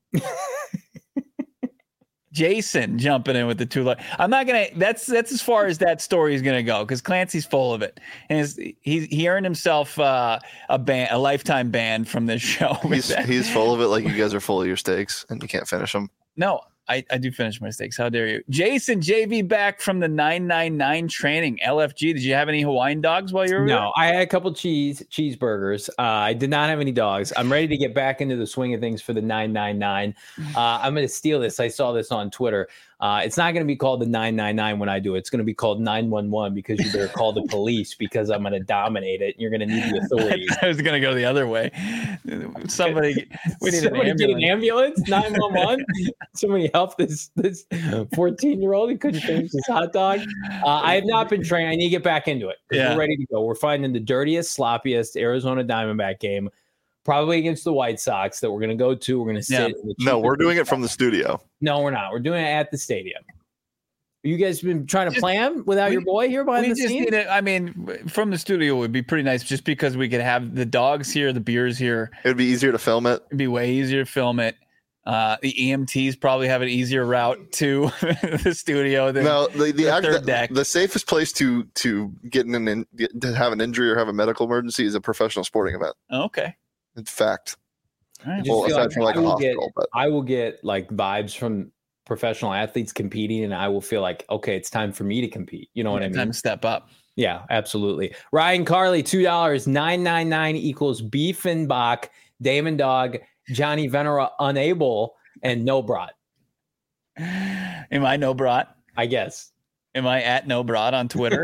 Jason jumping in with the two. I'm not gonna. That's that's as far as that story is gonna go because Clancy's full of it, and his, he he earned himself uh, a ban, a lifetime ban from this show. He's he's full of it, like you guys are full of your steaks and you can't finish them. No. I, I do finish my steaks. How dare you? Jason, J V back from the nine nine nine training. L F G, did you have any Hawaiian dogs while you were No, there? I had a couple cheese cheeseburgers. Uh, I did not have any dogs. I'm ready to get back into the swing of things for the nine nine nine. Uh, I'm going to steal this. I saw this on Twitter. Uh, it's not going to be called the nine nine nine when I do it. It's going to be called nine one one because you better call the police because I'm going to dominate it. And you're going to need the authorities. I was going to go the other way. Somebody, we need Somebody an ambulance. Get an ambulance. nine one one. Somebody help this this fourteen year old who couldn't finish his hot dog. Uh, I have not been trained. I need to get back into it. Yeah. We're ready to go. We're finding the dirtiest, sloppiest Arizona Diamondback game. Probably against the White Sox that we're going to go to. We're going to sit. Yeah. In the no, we're doing it from the studio. No, we're not. We're doing it at the stadium. You guys been trying to just, plan without we, your boy here behind the scenes? Need it. I mean, from the studio would be pretty nice just because we could have the dogs here, the beers here. It would be easier to film it. It'd be way easier to film it. Uh, the E M Ts probably have an easier route to the studio than no, the, the, the act, third the, deck. The safest place to to get in an to have an injury or have a medical emergency is a professional sporting event. Okay, it's fact. Right. Well, aside like from like I a hospital, get, but I will get like vibes from professional athletes competing, and I will feel like, okay, it's time for me to compete. You know what I mean? Time to step up. Yeah, absolutely. Ryan Carley, two dollars, nine nine nine equals beef and Bach, Damon Dog, Johnny Venera unable, and no brat. Am I no brat? I guess. Am I at no brat on Twitter?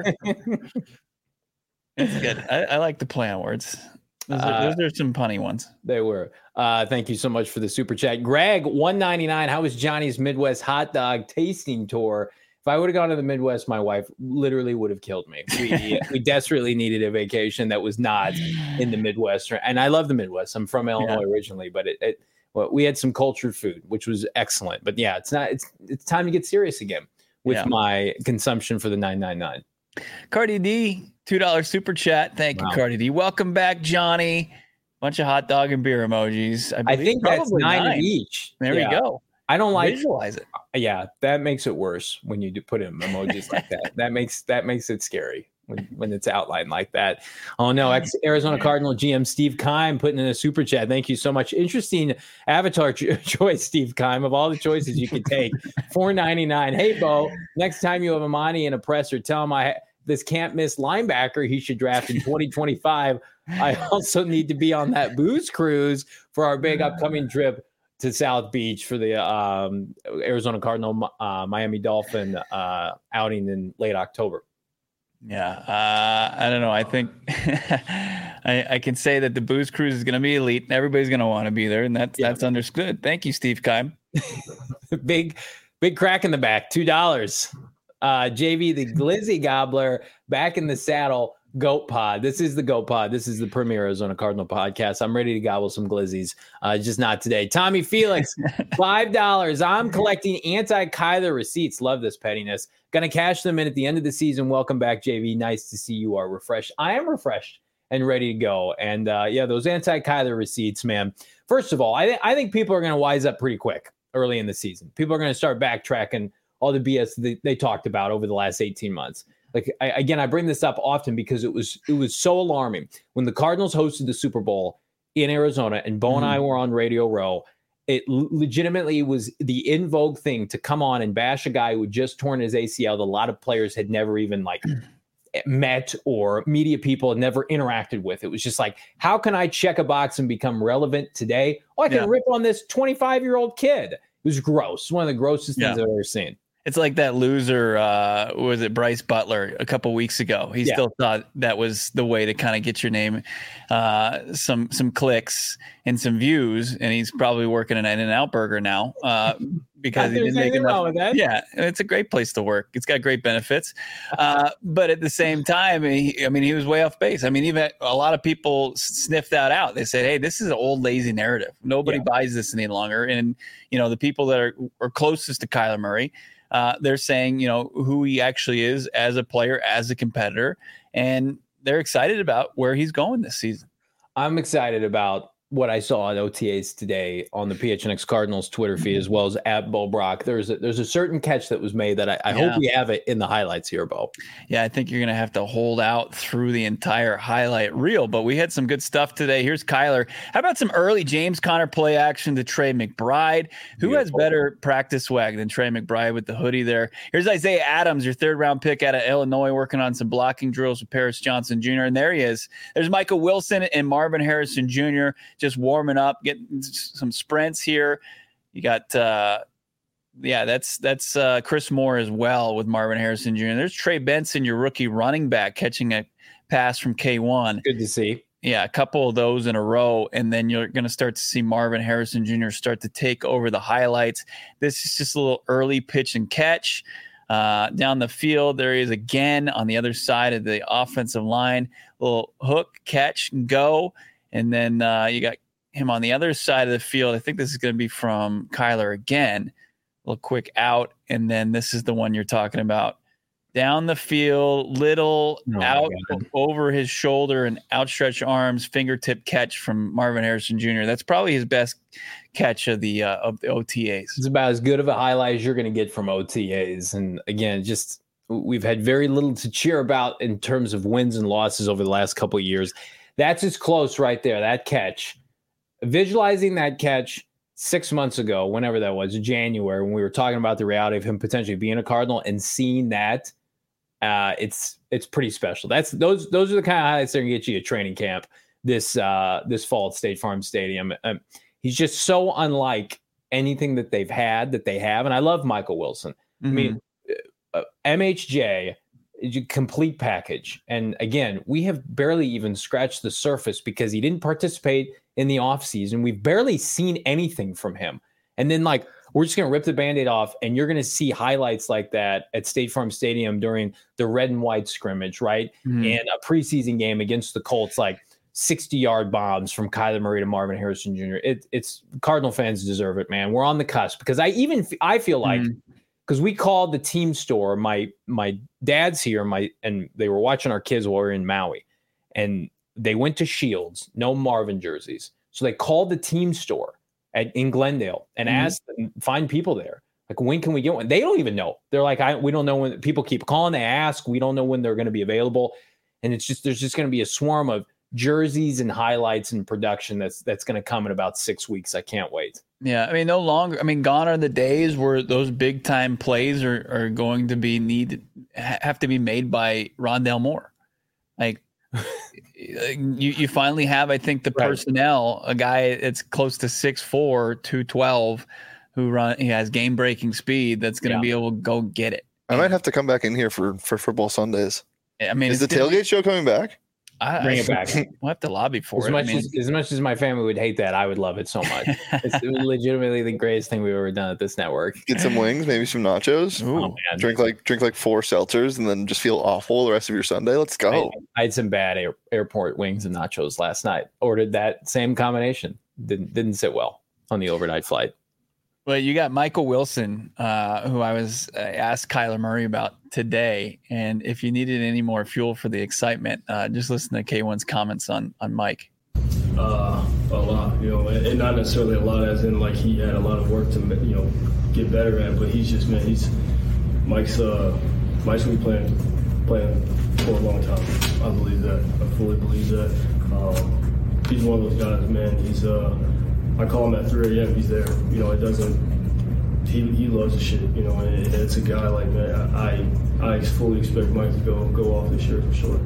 It's good. I, I like the play on words. Those are, uh, those are some punny ones. They were. Uh, thank you so much for the super chat. Greg, one ninety-nine. How was Johnny's Midwest hot dog tasting tour? If I would have gone to the Midwest, my wife literally would have killed me. We, we desperately needed a vacation that was not in the Midwest. And I love the Midwest. I'm from Illinois yeah. originally, but it, it well, we had some cultured food, which was excellent. But yeah, it's not. It's it's time to get serious again with yeah. my consumption for the nine ninety-nine. Cardi D, two dollars super chat. Thank wow. you, Cardi D. Welcome back, Johnny. Bunch of hot dog and beer emojis. I, I think that's nine, nine each. There yeah. we go. I don't like visualize it. Yeah, that makes it worse when you do put in emojis like that. That makes that makes it scary. when, when it's outlined like that. Oh no, ex Arizona Cardinal G M Steve Keim putting in a super chat. Thank you so much. Interesting avatar cho- choice, Steve Keim. Of all the choices you could take, four ninety-nine. Hey Bo, next time you have Amani in a presser, tell him I this can't miss linebacker he should draft in twenty twenty-five. I also need to be on that booze cruise for our big upcoming trip to South Beach for the um, Arizona Cardinal uh, Miami Dolphin uh, outing in late October. Yeah, uh, I don't know. I think I, I can say that the booze cruise is going to be elite. And everybody's going to want to be there, and that's yeah. that's understood. Thank you, Steve Keim. big, big crack in the back. Two dollars. Uh, J V, the Glizzy Gobbler, back in the saddle. Goat Pod. This is the Goat Pod. This is the premier Arizona Cardinal podcast. I'm ready to gobble some glizzies. Uh, just not today. Tommy Felix, five dollars. I'm collecting anti-Kyler receipts. Love this pettiness. Gonna cash them in at the end of the season. Welcome back, J V. Nice to see you are refreshed. I am refreshed and ready to go. And uh, yeah, those anti-Kyler receipts, man. First of all, I, th- I think people are gonna wise up pretty quick early in the season. People are gonna start backtracking all the B S they, they talked about over the last eighteen months. Like I, again, I bring this up often because it was it was so alarming when the Cardinals hosted the Super Bowl in Arizona, and Bo mm-hmm. and I were on Radio Row. It l- legitimately was the in vogue thing to come on and bash a guy who had just torn his A C L that a lot of players had never even like met or media people had never interacted with. It was just like, how can I check a box and become relevant today? Oh, I can yeah. rip on this twenty-five year old kid. It was gross. One of the grossest things yeah. I've ever seen. It's like that loser, uh, was it Bryce Butler a couple weeks ago? He yeah. still thought that was the way to kind of get your name, uh, some some clicks and some views, and he's probably working at an In-N-Out Burger now uh, because he didn't make enough. Yeah, it's a great place to work. It's got great benefits, uh, but at the same time, he, I mean, he was way off base. I mean, even a lot of people sniffed that out. They said, "Hey, this is an old lazy narrative. Nobody yeah. buys this any longer." And you know, the people that are, are closest to Kyler Murray. Uh, they're saying, you know, who he actually is as a player, as a competitor, and they're excited about where he's going this season. I'm excited about what I saw at O T As today on the P H N X Cardinals Twitter feed, as well as at Bo Brock. There's a, there's a certain catch that was made that I, I yeah. hope we have it in the highlights here, Bo. Yeah, I think you're going to have to hold out through the entire highlight reel, but we had some good stuff today. Here's Kyler. How about some early James Conner play action to Trey McBride? Who Beautiful. has better practice swag than Trey McBride with the hoodie there? Here's Isaiah Adams, your third round pick out of Illinois, working on some blocking drills with Paris Johnson Junior And there he is. There's Michael Wilson and Marvin Harrison Junior just warming up, getting some sprints here. You got, uh, yeah, that's that's uh, Chris Moore as well with Marvin Harrison Junior There's Trey Benson, your rookie running back, catching a pass from K one. Good to see. Yeah, a couple of those in a row, and then you're going to start to see Marvin Harrison Junior start to take over the highlights. This is just a little early pitch and catch. Uh, down the field, there he is again on the other side of the offensive line. Little hook, catch, and go. And then uh, you got him on the other side of the field. I think this is going to be from Kyler again. A little quick out, and then this is the one you're talking about. Down the field, little oh out over his shoulder and outstretched arms, fingertip catch from Marvin Harrison Junior That's probably his best catch of the uh, of the O T As. It's about as good of a highlight as you're going to get from O T As. And again, just we've had very little to cheer about in terms of wins and losses over the last couple of years. That's as close right there, that catch. Visualizing that catch six months ago, whenever that was, January, when we were talking about the reality of him potentially being a Cardinal and seeing that, uh, it's it's pretty special. That's those those are the kind of highlights that are going to get you a training camp this uh, this fall at State Farm Stadium. Um, he's just so unlike anything that they've had, that they have. And I love Michael Wilson. Mm-hmm. I mean, uh, M H J, complete package. And again, we have barely even scratched the surface because he didn't participate in the offseason. We've barely seen anything from him. And then, like, we're just going to rip the Band-Aid off, and you're going to see highlights like that at State Farm Stadium during the red and white scrimmage, right? Mm-hmm. And a preseason game against the Colts, like sixty-yard bombs from Kyler Murray to Marvin Harrison Junior It, it's Cardinal fans deserve it, man. We're on the cusp because I even I feel like because mm-hmm. we called the team store. My my dad's here, my and they were watching our kids while we were in Maui, and they went to Shields, no Marvin jerseys, so they called the team store at in Glendale and mm-hmm. asked them, find people there. Like, when can we get one? They don't even know. They're like, I, we don't know when. People keep calling, they ask. We don't know when they're going to be available. And it's just, there's just going to be a swarm of jerseys and highlights and production that's that's going to come in about six weeks. I can't wait. Yeah, I mean, no longer. I mean, gone are the days where those big time plays are, are going to be need have to be made by Rondale Moore. Like, you you finally have, I think, the right. personnel, a guy that's close to six four, two twelve, who run he has game breaking speed that's going to yeah. be able to go get it. I might have to come back in here for for football Sundays. I mean, is the tailgate show coming back? I, Bring it back. We'll have to lobby for as it. Much I mean, as, as much as my family would hate that, I would love it so much. It's legitimately the greatest thing we've ever done at this network. Get some wings, maybe some nachos. Ooh, oh, man. Drink like drink like four seltzers, and then just feel awful the rest of your Sunday. Let's go. I, I had some bad air, airport wings and nachos last night. Ordered that same combination. Didn't didn't sit well on the overnight flight. Well, you got Michael Wilson, uh, who I was uh, asked Kyler Murray about today, and if you needed any more fuel for the excitement, uh, just listen to K one's comments on on Mike. Uh, a lot, you know, and, and not necessarily a lot, as in like he had a lot of work to you know get better at, but he's just man, he's Mike's uh, Mike's been playing playing for a long time. I believe that. I fully believe that. Um, he's one of those guys, man. He's uh. I call him at three a.m. He's there. You know, it doesn't. He he loves the shit. You know, and it's a guy like man. I I fully expect Mike to go go off this year for sure.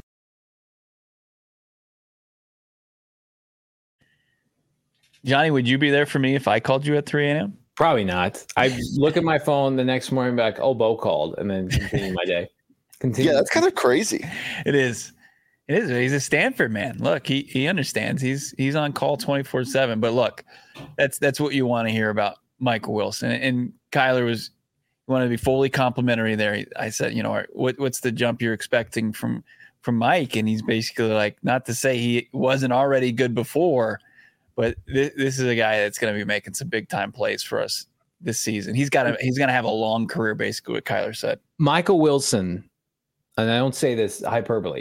Johnny, would you be there for me if I called you at three a.m.? Probably not. I look at my phone the next morning, and be like, oh, Bo called, and then continue my day. Continue. Yeah, that's kind of crazy. It is. It is. He's a Stanford man. Look, he he understands. He's he's on call twenty-four seven. But look, that's that's what you want to hear about Michael Wilson. And Kyler was wanted to be fully complimentary there. I said, you know, what what's the jump you're expecting from from Mike? And he's basically like, not to say he wasn't already good before, but this, this is a guy that's going to be making some big time plays for us this season. He's got a, he's going to have a long career, basically, what Kyler said. Michael Wilson, and I don't say this hyperbole,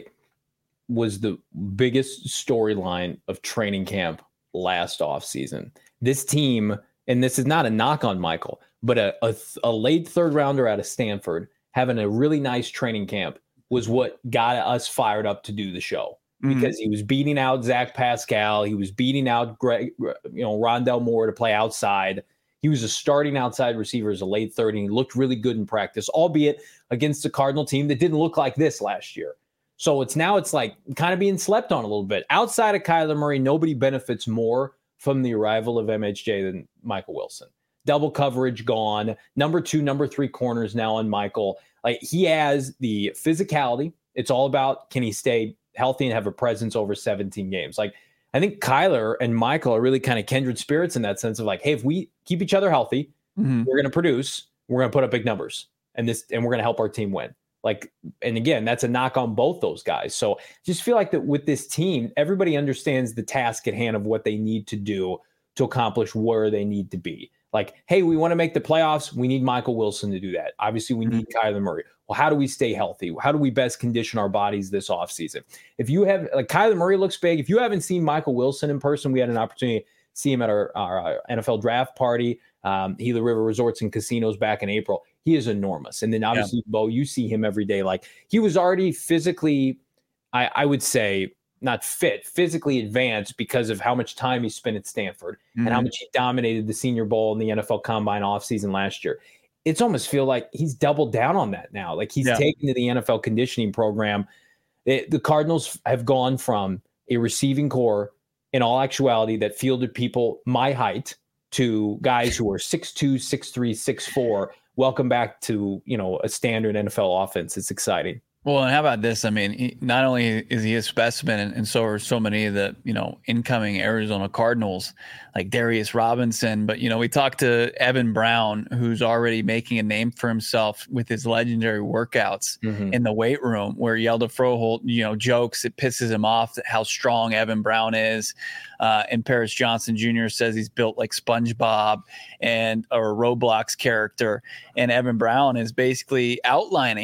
was the biggest storyline of training camp last offseason. This team, and this is not a knock on Michael, but a, a, a late third rounder out of Stanford having a really nice training camp was what got us fired up to do the show, mm-hmm. because he was beating out Zach Pascal. He was beating out Greg, you know, Rondale Moore to play outside. He was a starting outside receiver as a late third, and he looked really good in practice, albeit against a Cardinal team that didn't look like this last year. So it's now it's like kind of being slept on a little bit. Outside of Kyler Murray, nobody benefits more from the arrival of M H J than Michael Wilson. Double coverage gone. Number two, number three corners now on Michael. Like, he has the physicality. It's all about, can he stay healthy and have a presence over seventeen games? Like, I think Kyler and Michael are really kind of kindred spirits in that sense of like, hey, if we keep each other healthy, mm-hmm. we're going to produce, we're going to put up big numbers, and this, and we're going to help our team win. Like, and again, that's a knock on both those guys. So just feel like that with this team, everybody understands the task at hand of what they need to do to accomplish where they need to be. Like, hey, we want to make the playoffs. We need Michael Wilson to do that. Obviously, we need Kyler Murray. Well, how do we stay healthy? How do we best condition our bodies this offseason? If you have, like, Kyler Murray looks big. If you haven't seen Michael Wilson in person, we had an opportunity to see him at our, our N F L draft party, um, Gila River Resorts and Casinos back in April. He is enormous. And then obviously, yeah. Bo, you see him every day. Like, he was already physically, I, I would say, not fit, physically advanced because of how much time he spent at Stanford mm-hmm. and how much he dominated the Senior Bowl and the N F L Combine offseason last year. It's almost feel like he's doubled down on that now. Like, he's yeah. taken to the N F L conditioning program. It, the Cardinals have gone from a receiving core, in all actuality, that fielded people my height to guys who are six two, six three, six four. Welcome back to, you know, a standard N F L offense. It's exciting. Well, and how about this? I mean, he, not only is he a specimen, and, and so are so many of the, you know, incoming Arizona Cardinals, like Darius Robinson. But, you know, we talked to Evan Brown, who's already making a name for himself with his legendary workouts mm-hmm. in the weight room, where Yelda Froholt, you know, jokes, it pisses him off how strong Evan Brown is. Uh, and Paris Johnson Junior says he's built like SpongeBob and or a Roblox character. And Evan Brown is basically outlining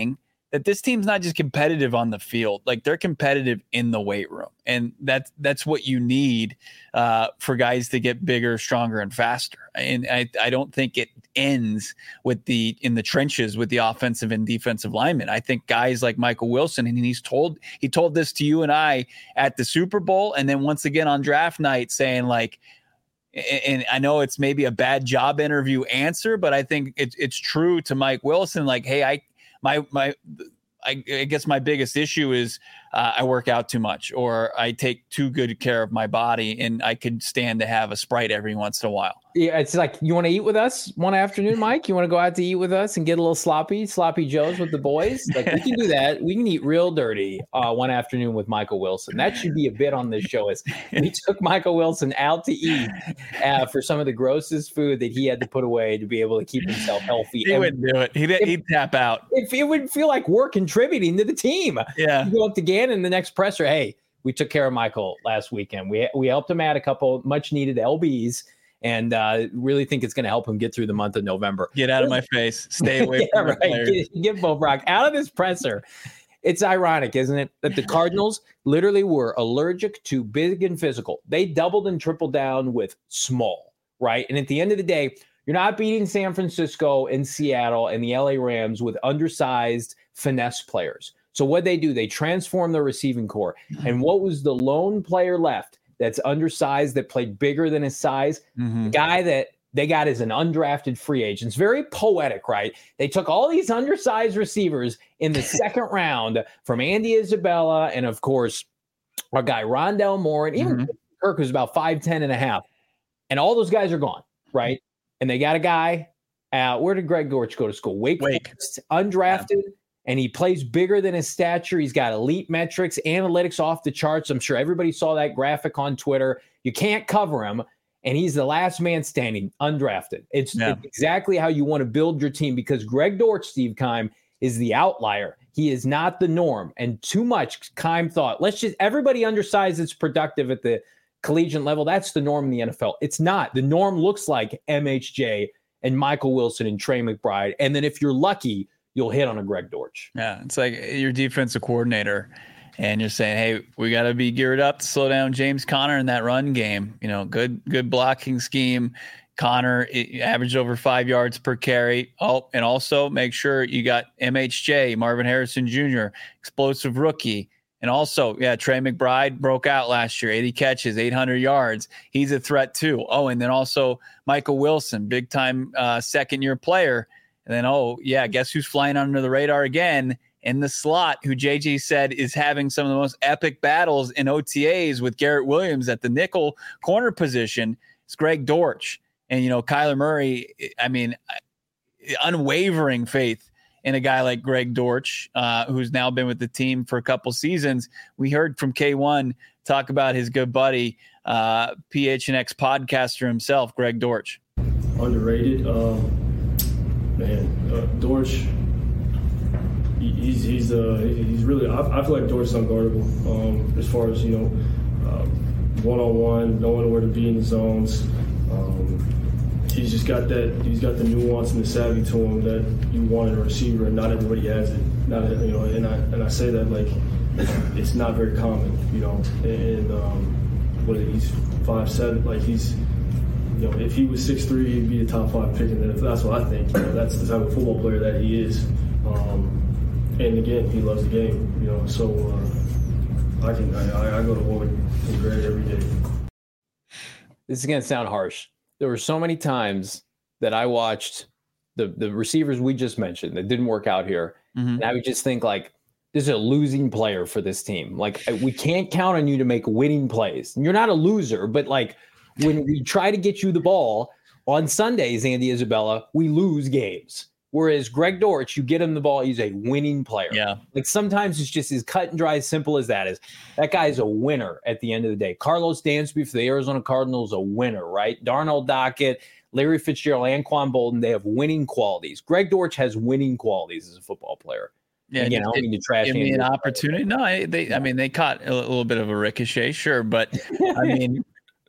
that this team's not just competitive on the field, like they're competitive in the weight room. And that's, that's what you need uh, for guys to get bigger, stronger, and faster. And I, I don't think it ends with the, in the trenches with the offensive and defensive linemen. I think guys like Michael Wilson, and he's told, he told this to you and I at the Super Bowl. And then once again on draft night saying like, and I know it's maybe a bad job interview answer, but I think it's, it's true to Mike Wilson. Like, hey, I, My my, I, I guess my biggest issue is uh, I work out too much, or I take too good care of my body, and I could stand to have a Sprite every once in a while. Yeah, it's like, you want to eat with us one afternoon, Mike? You want to go out to eat with us and get a little sloppy, sloppy Joes with the boys? Like, we can do that. We can eat real dirty uh, one afternoon with Michael Wilson. That should be a bit on this show. Is we took Michael Wilson out to eat uh, for some of the grossest food that he had to put away to be able to keep himself healthy. He and wouldn't do it. He'd, if, he'd tap out. If it would feel like we're contributing to the team. Yeah. You go up to Gannon, the next presser, hey, we took care of Michael last weekend. We we helped him add a couple much needed L Bs, and uh, really think it's going to help him get through the month of November. Get out of my face. Stay away yeah, from right. Get, get Bo Brock out of this presser. It's ironic, isn't it, that the Cardinals literally were allergic to big and physical. They doubled and tripled down with small, right? And at the end of the day, you're not beating San Francisco and Seattle and the L A Rams with undersized finesse players. So what they do, they transform the receiving core. And what was the lone player left that's undersized, that played bigger than his size? Mm-hmm. The guy that they got is an undrafted free agent. It's very poetic, right? They took all these undersized receivers in the second round from Andy Isabella and, of course, our guy Rondell Moore, and even mm-hmm. Kirk, who's about five ten and a half. And all those guys are gone, right? And they got a guy, uh, where did Greg Dortch go to school? Wake, Wake. Forest, undrafted. Yeah. And he plays bigger than his stature. He's got elite metrics, analytics off the charts. I'm sure everybody saw that graphic on Twitter. You can't cover him. And he's the last man standing, undrafted. It's, yeah. it's exactly how you want to build your team, because Greg Dortch, Steve Keim, is the outlier. He is not the norm. And too much Keim thought, let's just, everybody undersized that's productive at the collegiate level. That's the norm in the N F L. It's not. The norm looks like M H J and Michael Wilson and Trey McBride. And then if you're lucky, you'll hit on a Greg Dortch. Yeah, it's like your defensive coordinator, and you're saying, hey, we got to be geared up to slow down James Conner in that run game. You know, good good blocking scheme. Conner averaged over five yards per carry. Oh, and also make sure you got M H J, Marvin Harrison Junior, explosive rookie. And also, yeah, Trey McBride broke out last year, eighty catches, eight hundred yards. He's a threat too. Oh, and then also Michael Wilson, big-time uh, second-year player. And then, oh, yeah, guess who's flying under the radar again in the slot, who J J said is having some of the most epic battles in O T As with Garrett Williams at the nickel corner position. It's Greg Dortch. And, you know, Kyler Murray, I mean, unwavering faith in a guy like Greg Dortch, uh, who's now been with the team for a couple seasons. We heard from K one talk about his good buddy, uh, P H N X podcaster himself, Greg Dortch. Underrated. Um, man, uh, Dortch, he, he's he's uh, he's really, I, I feel like Dortch is unguardable um, as far as, you know, uh, one-on-one, knowing where to be in the zones. Um, he's just got that, he's got the nuance and the savvy to him that you want in a receiver, and not everybody has it. Not, you know, and I and I say that like it's not very common, you know. And um, what he's five seven, like he's, you know, if he was six three, he'd be a top five pick, and that's what I think. You know, that's the type of football player that he is. Um, and again, he loves the game, you know. So uh, I can I, I go to war with Greg every day. This is going to sound harsh. There were so many times that I watched the the receivers we just mentioned that didn't work out here. Mm-hmm. And I would just think, like, this is a losing player for this team. Like, we can't count on you to make winning plays. And you're not a loser, but, like, when we try to get you the ball on Sundays, Andy Isabella, we lose games. Whereas Greg Dortch, you get him the ball, he's a winning player. Yeah. Like, sometimes it's just as cut and dry, as simple as that is. That guy's a winner at the end of the day. Carlos Dansby for the Arizona Cardinals, a winner, right? Darnell Dockett, Larry Fitzgerald, Anquan Bolden, they have winning qualities. Greg Dortch has winning qualities as a football player. Yeah, Again, I don't mean to trash give me an opportunity. No, they. I mean, they caught a little bit of a ricochet, sure, but I mean,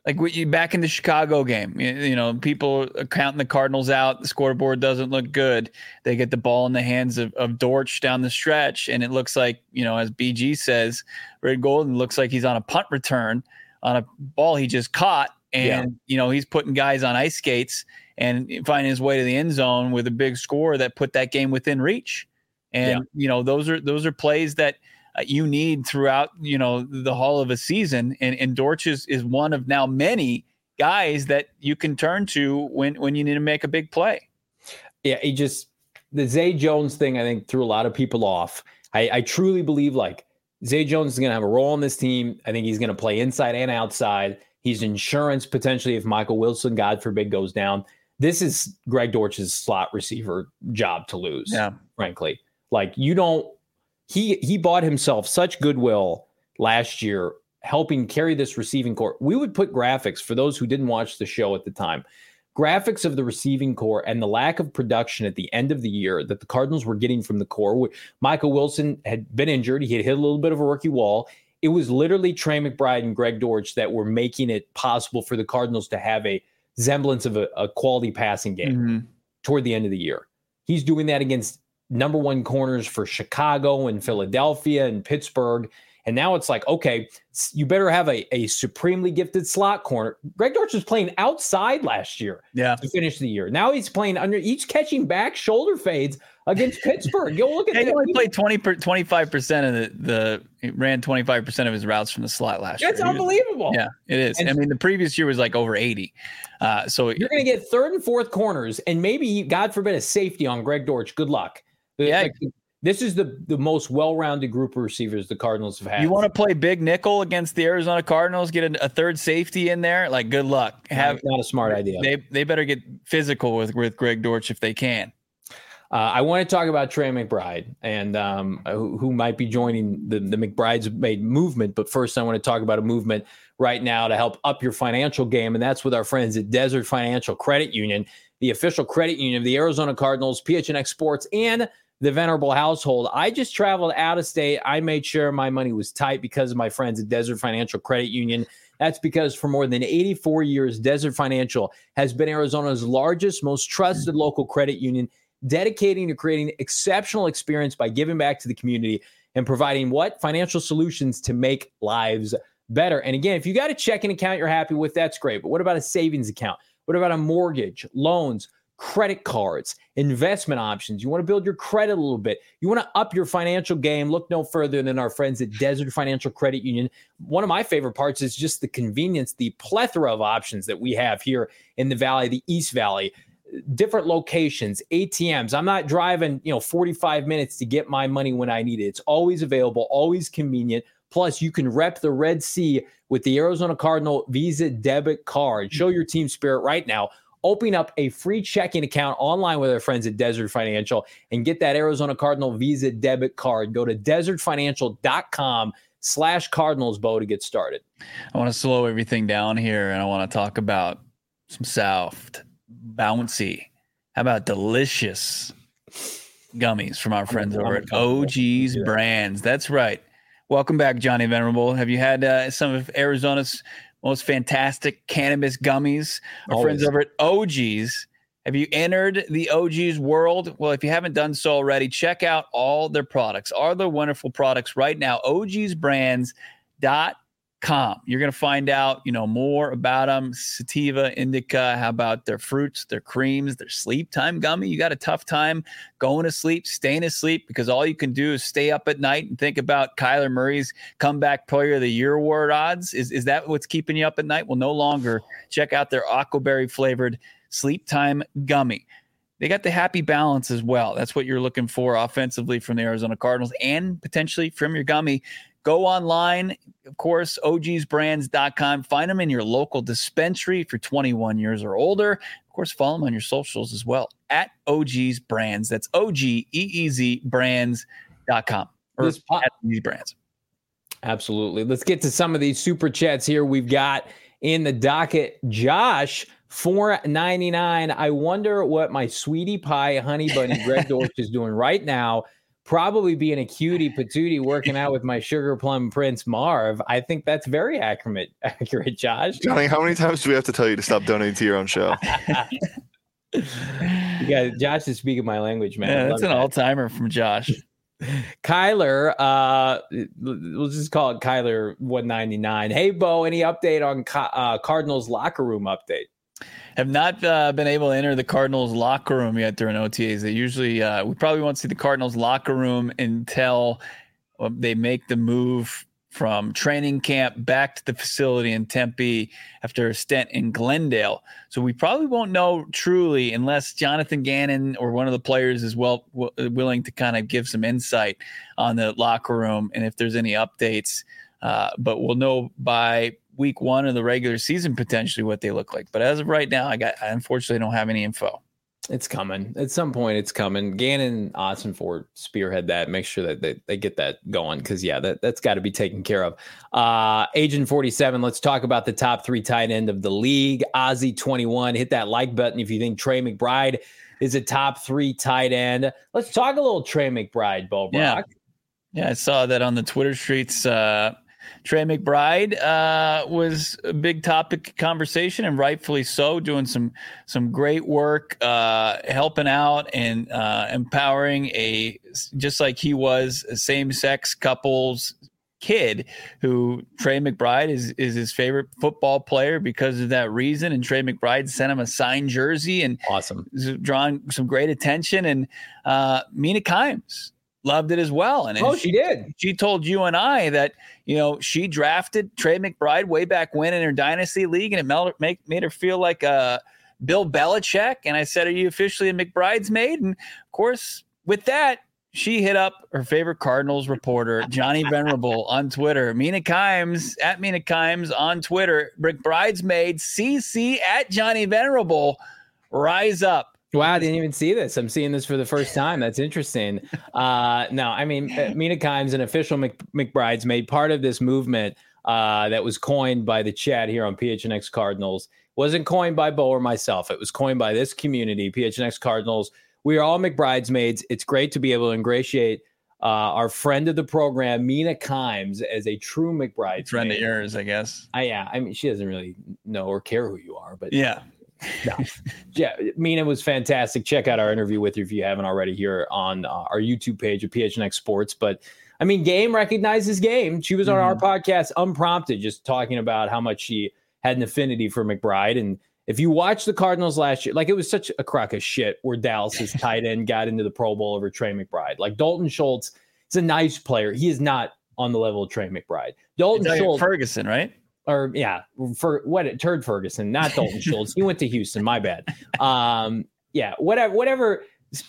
Like we, back in the Chicago game, you, you know, people are counting the Cardinals out. The scoreboard doesn't look good. They get the ball in the hands of, of Dortch down the stretch, and it looks like, you know, as B G says, Red Golden looks like he's on a punt return on a ball he just caught, and yeah. you know, he's putting guys on ice skates and finding his way to the end zone with a big score that put that game within reach. And yeah. you know, those are those are plays that Uh, you need throughout, you know, the whole of a season. And, and Dortch is, is one of now many guys that you can turn to when, when you need to make a big play. Yeah, he just, the Zay Jones thing, I think, threw a lot of people off. I, I truly believe, like, Zay Jones is going to have a role on this team. I think he's going to play inside and outside. He's insurance potentially if Michael Wilson, God forbid, goes down. This is Greg Dortch's slot receiver job to lose, yeah. frankly. Like, you don't, He he bought himself such goodwill last year, helping carry this receiving core. We would put graphics, for those who didn't watch the show at the time, graphics of the receiving core and the lack of production at the end of the year that the Cardinals were getting from the core. Michael Wilson had been injured. He had hit a little bit of a rookie wall. It was literally Trey McBride and Greg Dortch that were making it possible for the Cardinals to have a semblance of a, a quality passing game mm-hmm. toward the end of the year. He's doing that against number one corners for Chicago and Philadelphia and Pittsburgh. And now it's like, okay, you better have a, a supremely gifted slot corner. Greg Dortch was playing outside last year yeah. to finish the year. Now he's playing under each catching back shoulder fades against Pittsburgh. Go look at that. He only played twenty, twenty-five percent of the, the he ran twenty-five percent of his routes from the slot last That's year. That's unbelievable. Was, yeah, it is. And I mean, the previous year was like over eighty. Uh, so you're going to get third and fourth corners and maybe, God forbid, a safety on Greg Dortch. Good luck. Yeah. Like, this is the, the most well-rounded group of receivers the Cardinals have had. You want to play big nickel against the Arizona Cardinals, get a, a third safety in there? Like, good luck. Have not a smart idea. They they better get physical with, with Greg Dortch if they can. Uh, I want to talk about Trey McBride and um, who, who might be joining the, the McBride's made movement. But first, I want to talk about a movement right now to help up your financial game, and that's with our friends at Desert Financial Credit Union, the official credit union of the Arizona Cardinals, P H N X Sports, and the Venerable household. I just traveled out of state. I made sure my money was tight because of my friends at Desert Financial Credit Union. That's because for more than eighty-four years, Desert Financial has been Arizona's largest, most trusted local credit union, dedicating to creating exceptional experience by giving back to the community and providing what? Financial solutions to make lives better. And again, if you got a checking account you're happy with, that's great. But what about a savings account? What about a mortgage, loans, credit cards, investment options? You want to build your credit a little bit. You want to up your financial game. Look no further than our friends at Desert Financial Credit Union. One of my favorite parts is just the convenience, the plethora of options that we have here in the Valley, the East Valley, different locations, A T Ms. I'm not driving, you know, forty-five minutes to get my money when I need it. It's always available, always convenient. Plus, you can rep the Red Sea with the Arizona Cardinal Visa debit card. Show your team spirit right now. Open up a free checking account online with our friends at Desert Financial and get that Arizona Cardinal Visa debit card. Go to desertfinancial.com slash Cardinals, Bo, to get started. I want to slow everything down here, and I want to talk about some soft, bouncy, how about delicious gummies from our friends over at O G's Brands. That's right. Welcome back, Johnny Venerable. Have you had uh, some of Arizona's most fantastic cannabis gummies? Our Always. friends over at O G's. Have you entered the O G's world? Well, if you haven't done so already, check out all their products, all their wonderful products right now, O G's brands dot com. You're going to find out, you know, more about them. Sativa, indica, how about their fruits, their creams, their sleep time gummy. You got a tough time going to sleep, staying asleep, because all you can do is stay up at night and think about Kyler Murray's comeback player of the year award odds. Is, is that what's keeping you up at night? Well, no longer. Check out their aquaberry flavored sleep time gummy. They got the happy balance as well. That's what you're looking for offensively from the Arizona Cardinals and potentially from your gummy. Go online, of course, O Gs brands dot com. Find them in your local dispensary if you're twenty-one years or older. Of course, follow them on your socials as well, at O G's Brands. That's O G E E Z brands dot com. Or this po- at O G's Brands. Absolutely. Let's get to some of these super chats here we've got in the docket. Josh, four ninety-nine. I wonder what my sweetie pie honey bunny Greg Dortch is doing right now. probably being a cutie patootie working out with my sugar plum prince Marv. I think that's very accurate, accurate, Josh. Johnny, how many times do we have to tell you to stop donating to your own show? You got Josh is speaking my language, man. Yeah, that's an that. all-timer from Josh. Kyler, uh, we'll just call it Kyler one ninety-nine. Hey, Bo, any update on uh, Cardinals locker room update? Have not uh, been able to enter the Cardinals locker room yet during O T As. They usually, uh, we probably won't see the Cardinals locker room until they make the move from training camp back to the facility in Tempe after a stint in Glendale. So we probably won't know truly unless Jonathan Gannon or one of the players is well w- willing to kind of give some insight on the locker room and if there's any updates. Uh, but we'll know by week one of the regular season potentially what they look like. But as of right now, I got I unfortunately don't have any info. It's coming. At some point, it's coming. Gannon and Ossenfort spearhead that. Make sure that they, they get that going because, yeah, that, that's got to be taken care of. Uh, Agent forty-seven, let's talk about the top three tight end of the league. Ozzy twenty-one, hit that like button if you think Trey McBride is a top three tight end. Let's talk a little Trey McBride, Bo Brock. Yeah, yeah I saw that on the Twitter streets. Uh, Trey McBride uh, was a big topic of conversation, and rightfully so, doing some some great work, uh, helping out and uh, empowering a just like he was a same-sex couples kid who Trey McBride is is his favorite football player because of that reason. And Trey McBride sent him a signed jersey and awesome, drawing some great attention. And uh, Mina Kimes loved it as well. And oh, she, she did. She told you and I that, you know, she drafted Trey McBride way back when in her dynasty league, and it made, make, made her feel like uh, Bill Belichick. And I said, are you officially a McBride's maid? And of course, with that, she hit up her favorite Cardinals reporter, Johnny Venerable, on Twitter. Mina Kimes, at Mina Kimes on Twitter. McBride's maid, C C at Johnny Venerable. Rise up. Wow, I didn't even see this. I'm seeing this for the first time. That's interesting. Uh, no, I mean, Mina Kimes, an official Mc, McBride's made part of this movement uh, that was coined by the chat here on P H N X Cardinals. Wasn't coined by Bo or myself. It was coined by this community, P H N X Cardinals. We are all McBride's maids. It's great to be able to ingratiate uh, our friend of the program, Mina Kimes, as a true McBride's friend maid. of yours, I guess. I, yeah, I mean, she doesn't really know or care who you are, but yeah. No. Yeah, Mina was fantastic. Check out our interview with her if you haven't already here on uh, our YouTube page of P H N X Sports. But I mean, Game recognizes Game. She was on mm-hmm. our podcast unprompted, just talking about how much she had an affinity for McBride. And if you watch the Cardinals last year, like it was such a crock of shit where Dallas's tight end got into the Pro Bowl over Trey McBride. Like Dalton Schultz is a nice player. He is not on the level of Trey McBride. Dalton Schultz, Ferguson, right? Or yeah, for what Turd Ferguson, not Dalton Schultz. He went to Houston. My bad. Um, yeah, whatever, whatever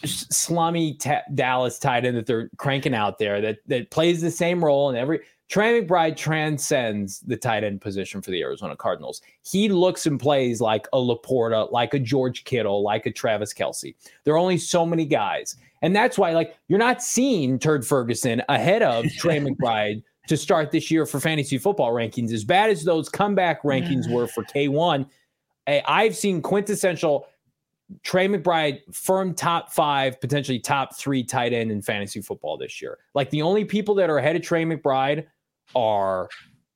slummy ta- Dallas tight end that they're cranking out there that that plays the same role in every. Trey McBride transcends the tight end position for the Arizona Cardinals. He looks and plays like a Laporta, like a George Kittle, like a Travis Kelce. There are only so many guys, and that's why like you're not seeing Turd Ferguson ahead of Trey McBride to start this year for fantasy football rankings. As bad as those comeback rankings were for K one, I've seen quintessential Trey McBride firm top five, potentially top three tight end in fantasy football this year. Like the only people that are ahead of Trey McBride are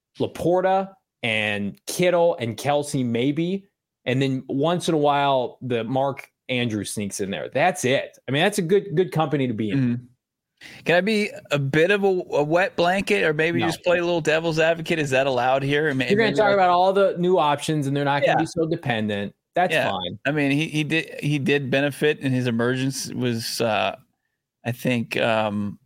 Laporta and Kittle and Kelce maybe. And then once in a while, the Mark Andrews sneaks in there. That's it. I mean, that's a good, good company to be in. Mm-hmm. Can I be a bit of a, a wet blanket, or maybe no. just play a little devil's advocate? Is that allowed here? Maybe, You're going to talk like, about all the new options, and they're not going to yeah. be so dependent. That's yeah. fine. I mean, he he did he did benefit, and his emergence was, uh, I think, um,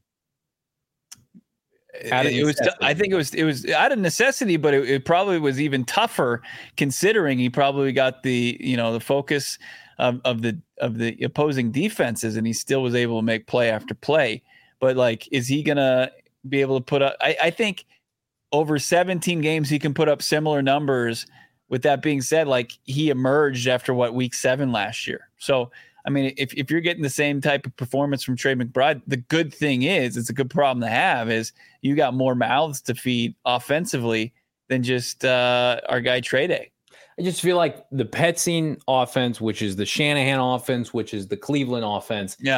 it, it was. I think it was it was out of necessity, but it, it probably was even tougher considering he probably got the you know the focus of, of the of the opposing defenses, and he still was able to make play after play. But, like, is he going to be able to put up I, – I think over seventeen games he can put up similar numbers. With that being said, like, he emerged after, what, week seven last year. So, I mean, if, if you're getting the same type of performance from Trey McBride, the good thing is, it's a good problem to have, is you got more mouths to feed offensively than just uh, our guy Trey Day. I just feel like the Petzing offense, which is the Shanahan offense, which is the Cleveland offense. Yeah.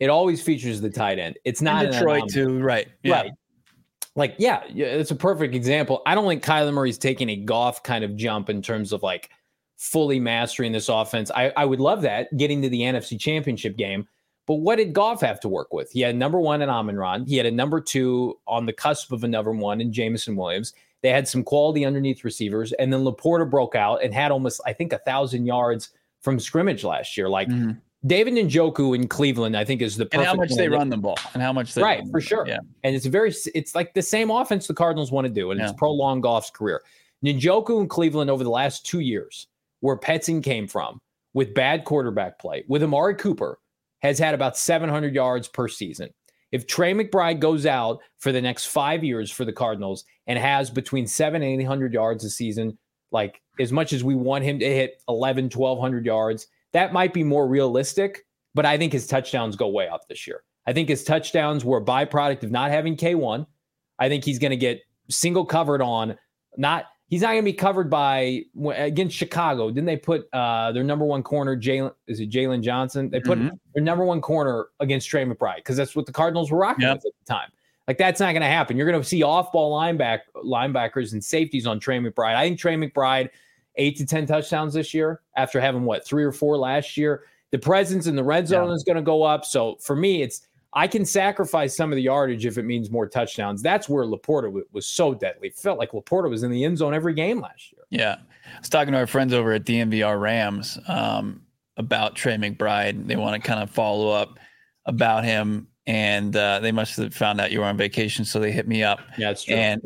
it always features the tight end. It's not in Detroit too, right? Yeah. Right. Like, yeah, it's a perfect example. I don't think Kyler Murray's taking a Goff kind of jump in terms of like fully mastering this offense. I, I would love that, getting to the N F C Championship game. But what did Goff have to work with? He had number one in Amon-Ra. He had a number two on the cusp of a number one in Jameson Williams. They had some quality underneath receivers. And then Laporta broke out and had almost, I think, a thousand yards from scrimmage last year. Like mm-hmm. David Njoku in Cleveland, I think, is the perfect. And how much they run the ball and how much they right, run for sure. Yeah. And it's very, it's like the same offense the Cardinals want to do. And yeah. it's prolonged Goff's career. Njoku in Cleveland over the last two years, where Petzing came from, with bad quarterback play, with Amari Cooper, has had about seven hundred yards per season. If Trey McBride goes out for the next five years for the Cardinals and has between seven and eight hundred yards a season, like as much as we want him to hit eleven, twelve hundred yards, that might be more realistic, but I think his touchdowns go way up this year. I think his touchdowns were a byproduct of not having K one. I think he's going to get single covered on, not, he's not going to be covered by, against Chicago. Didn't they put uh, their number one corner, Jalen, is it Jalen Johnson? They put mm-hmm. their number one corner against Trey McBride because that's what the Cardinals were rocking yep. with at the time. Like, that's not going to happen. You're going to see off-ball lineback, linebackers and safeties on Trey McBride. I think Trey McBride, eight to ten touchdowns this year after having, what, three or four last year. The presence in the red zone yeah. is going to go up. So, for me, it's I can sacrifice some of the yardage if it means more touchdowns. That's where Laporta w- was so deadly. It felt like Laporta was in the end zone every game last year. Yeah. I was talking to our friends over at D M V R Rams um, about Trey McBride. They want to kind of follow up about him. And uh, they must have found out you were on vacation, so they hit me up. Yeah, it's true. And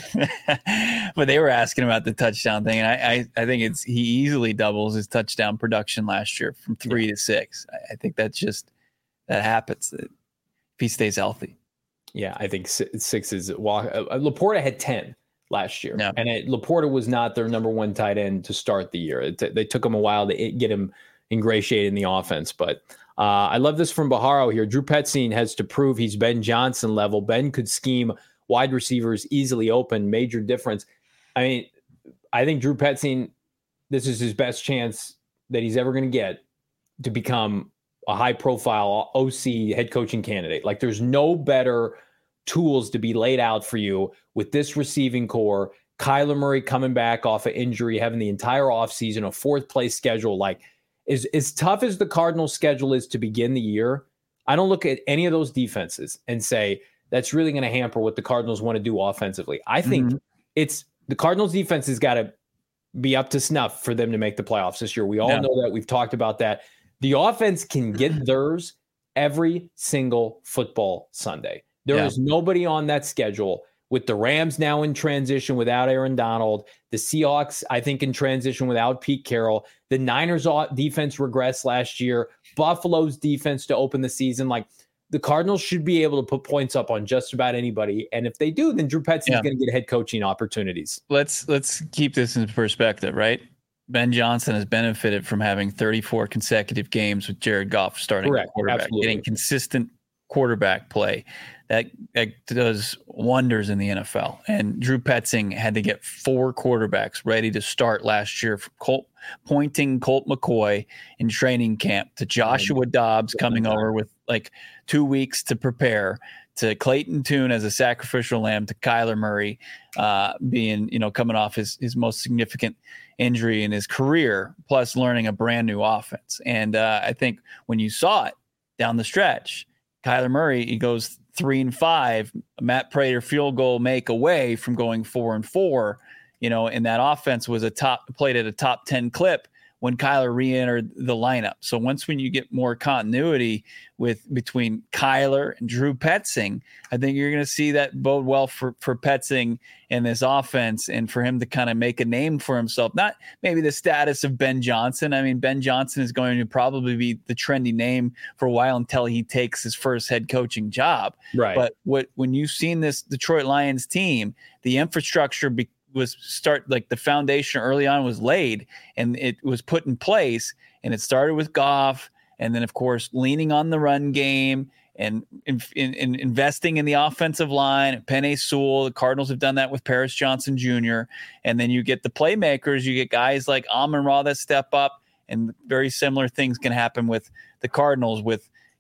but they were asking about the touchdown thing, and I, I, I think it's he easily doubles his touchdown production last year from three yeah. to six. I, I think that's just that happens if he stays healthy. Yeah, I think six is well. Uh, Laporta had ten last year, yeah. and it, Laporta was not their number one tight end to start the year. It, they took him a while to get him ingratiated in the offense, but. Uh, I love this from Baharo here. Drew Petzing has to prove he's Ben Johnson level. Ben could scheme wide receivers easily open, major difference. I mean, I think Drew Petzing, this is his best chance that he's ever going to get to become a high-profile O C head coaching candidate. Like, there's no better tools to be laid out for you with this receiving core. Kyler Murray coming back off of injury, having the entire offseason, a fourth-place schedule, like, As, as tough as the Cardinals' schedule is to begin the year, I don't look at any of those defenses and say that's really going to hamper what the Cardinals want to do offensively. I think mm-hmm. it's the Cardinals' defense has got to be up to snuff for them to make the playoffs this year. We all yeah. know that. We've talked about that. The offense can get theirs every single football Sunday. There yeah. is nobody on that schedule. With the Rams now in transition without Aaron Donald, the Seahawks, I think, in transition without Pete Carroll, the Niners' defense regressed last year, Buffalo's defense to open the season. Like, the Cardinals should be able to put points up on just about anybody. And if they do, then Drew Petzing yeah. is going to get head coaching opportunities. Let's let's keep this in perspective, right? Ben Johnson has benefited from having thirty-four consecutive games with Jared Goff starting Correct. quarterback, Absolutely. getting consistent quarterback play. That, that does wonders in the N F L. And Drew Petzing had to get four quarterbacks ready to start last year, from Colt, pointing Colt McCoy in training camp to Joshua Dobbs coming over with like two weeks to prepare, to Clayton Tune as a sacrificial lamb, to Kyler Murray uh, being, you know, coming off his, his most significant injury in his career, plus learning a brand new offense. And uh, I think when you saw it down the stretch, Kyler Murray, he goes three and five, Matt Prater field goal make away from going four and four, you know, and that offense was a top played at a top ten clip when Kyler re-entered the lineup. So once when you get more continuity with between Kyler and Drew Petzing, I think you're going to see that bode well for, for Petzing in this offense and for him to kind of make a name for himself. Not maybe the status of Ben Johnson. I mean, Ben Johnson is going to probably be the trendy name for a while until he takes his first head coaching job. Right. But what when you've seen this Detroit Lions team, the infrastructure be, was start like the foundation early on was laid and it was put in place, and it started with Goff, and then of course leaning on the run game and in, in, in investing in the offensive line. Penei Sewell, the Cardinals have done that with Paris Johnson Junior And then you get the playmakers, you get guys like Amon-Ra that step up, and very similar things can happen with the Cardinals with,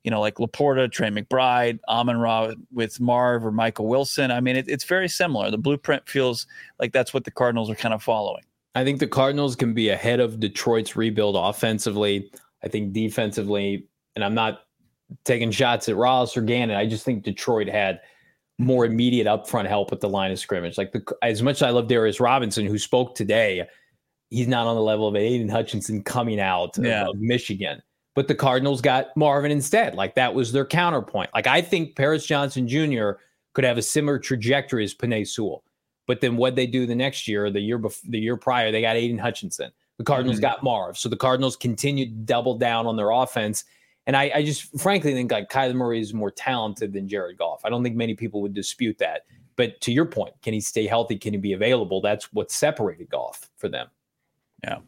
you know, like Laporta, Trey McBride, Amon-Ra with Marv or Michael Wilson. I mean, it, it's very similar. The blueprint feels like that's what the Cardinals are kind of following. I think the Cardinals can be ahead of Detroit's rebuild offensively. I think defensively, and I'm not taking shots at Ross or Gannon. I just think Detroit had more immediate upfront help with the line of scrimmage. Like the, as much as I love Darius Robinson, who spoke today, he's not on the level of Aiden Hutchinson coming out yeah. of, of Michigan. But the Cardinals got Marvin instead. Like that was their counterpoint. Like I think Paris Johnson Junior could have a similar trajectory as Penei Sewell. But then what they do the next year, the year before, the year prior, they got Aiden Hutchinson. The Cardinals mm-hmm. got Marv. So the Cardinals continued to double down on their offense. And I, I just frankly think like Kyler Murray is more talented than Jared Goff. I don't think many people would dispute that. But to your point, can he stay healthy? Can he be available? That's what separated Goff for them. Yeah,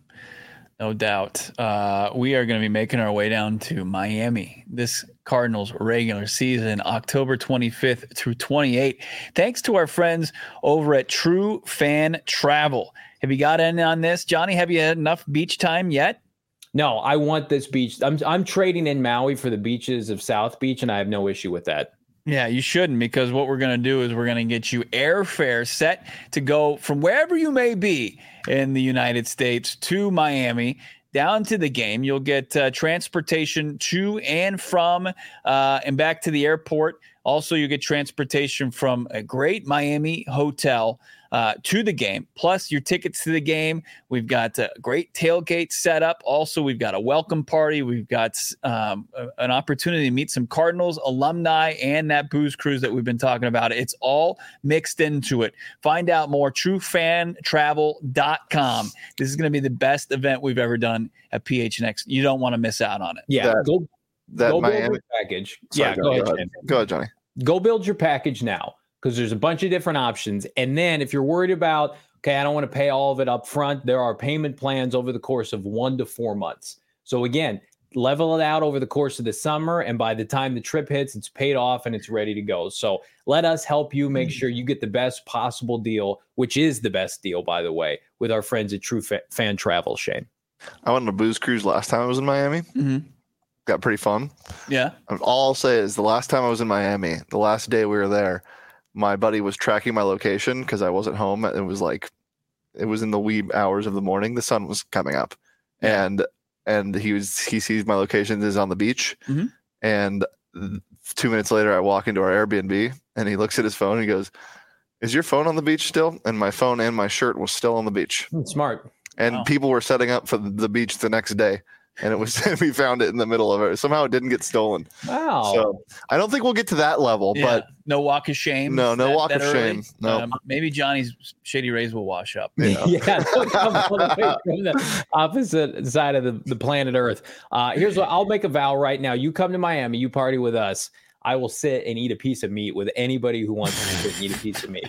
no doubt. Uh, we are going to be making our way down to Miami this Cardinals regular season, October twenty-fifth through twenty-eighth. Thanks to our friends over at True Fan Travel. Have you got in on this, Johnny? Have you had enough beach time yet? No, I want this beach. I'm I'm trading in Maui for the beaches of South Beach, and I have no issue with that. Yeah, you shouldn't, because what we're going to do is we're going to get you airfare set to go from wherever you may be in the United States to Miami, down to the game. You'll get uh, transportation to and from uh, and back to the airport. Also, you get transportation from a great Miami hotel uh, to the game, plus your tickets to the game. We've got a great tailgate set up. Also, we've got a welcome party. We've got um, a, an opportunity to meet some Cardinals alumni and that booze cruise that we've been talking about. It's all mixed into it. Find out more, true fan travel dot com. This is going to be the best event we've ever done at P H N X. You don't want to miss out on it. Yeah, that, go, that go Miami build your package. Sorry, yeah, go, go, go ahead, ahead. Go ahead, Johnny. Go build your package now, because there's a bunch of different options. And then if you're worried about, okay, I don't want to pay all of it up front, there are payment plans over the course of one to four months. So again, level it out over the course of the summer, and by the time the trip hits, it's paid off and it's ready to go. So let us help you make sure you get the best possible deal, which is the best deal, by the way, with our friends at True Fan Travel, Shane. I went on a booze cruise last time I was in Miami. Mm-hmm. Got pretty fun. Yeah. All I'll say is the last time I was in Miami, the last day we were there, my buddy was tracking my location because I wasn't home. It was like, it was in the wee hours of the morning. The sun was coming up, yeah. and and he was he sees my location is on the beach, mm-hmm. and two minutes later I walk into our Airbnb and he looks at his phone and he goes, "Is your phone on the beach still?" And my phone and my shirt was still on the beach. Smart. And wow. People were setting up for the beach the next day. And it was, we found it in the middle of it. Somehow it didn't get stolen. Wow. So I don't think we'll get to that level, yeah. but no walk of shame. No, no that, walk that of early. shame. No. Um, maybe Johnny's Shady Rays will wash up. Yeah. yeah they'll come all the way from the opposite side of the, the planet Earth. Uh, here's what I'll make a vow right now. You come to Miami, you party with us. I will sit and eat a piece of meat with anybody who wants to sit and eat a piece of meat.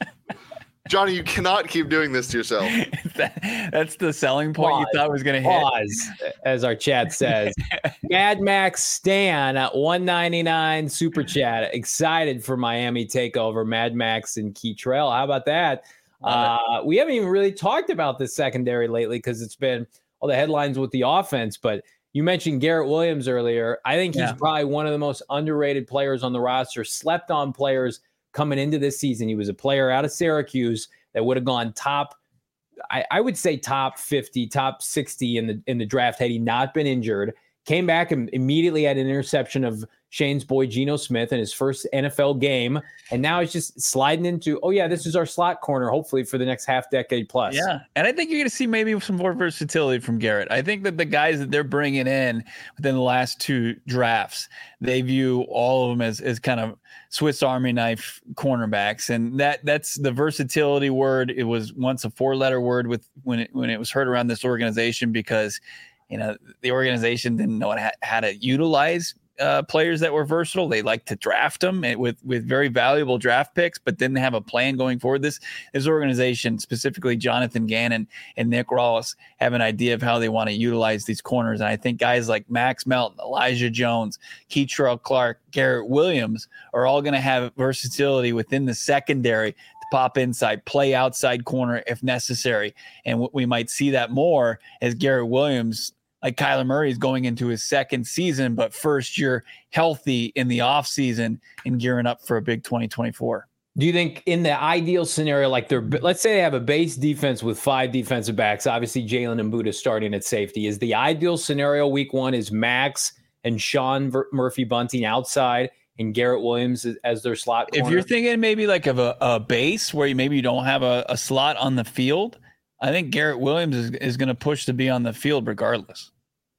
Johnny, you cannot keep doing this to yourself. that, that's the selling point pause, you thought was going to hit. Pause, as our chat says. Mad Max Stan at one ninety-nine super chat. Excited for Miami takeover. Mad Max and Keytrail. How about that? Uh, we haven't even really talked about this secondary lately because it's been all the headlines with the offense. But you mentioned Garrett Williams earlier. I think he's yeah. probably one of the most underrated players on the roster, slept on players coming into this season. He was a player out of Syracuse that would have gone top, I, I would say top fifty, top sixty in the in the draft had he not been injured. Came back and immediately had an interception of Shane's boy Geno Smith in his first N F L game. And now he's just sliding into, oh yeah, this is our slot corner, hopefully for the next half decade plus. Yeah. And I think you're going to see maybe some more versatility from Garrett. I think that the guys that they're bringing in within the last two drafts, they view all of them as, as kind of Swiss Army knife cornerbacks. And that that's the versatility word. It was once a four letter word with when it, when it was heard around this organization, because you know, the organization didn't know how, how to utilize uh, players that were versatile. They like to draft them with, with very valuable draft picks, but didn't have a plan going forward. This, this organization, specifically Jonathan Gannon and Nick Rawls, have an idea of how they want to utilize these corners. And I think guys like Max Melton, Elijah Jones, Keytrail Clark, Garrett Williams are all going to have versatility within the secondary, pop inside, play outside corner if necessary. And we might see that more as Garrett Williams like Kyler Murray is going into his second season, but first year healthy in the offseason and gearing up for a big twenty twenty-four. Do you think in the ideal scenario, like they're, let's say they have a base defense with five defensive backs, obviously Jalen and Buddha starting at safety, is the ideal scenario week one is Max and Sean Murphy-Bunting outside and Garrett Williams as, as their slot corner? If you're thinking maybe like of a, a base where you, maybe you don't have a, a slot on the field, I think Garrett Williams is, is going to push to be on the field regardless.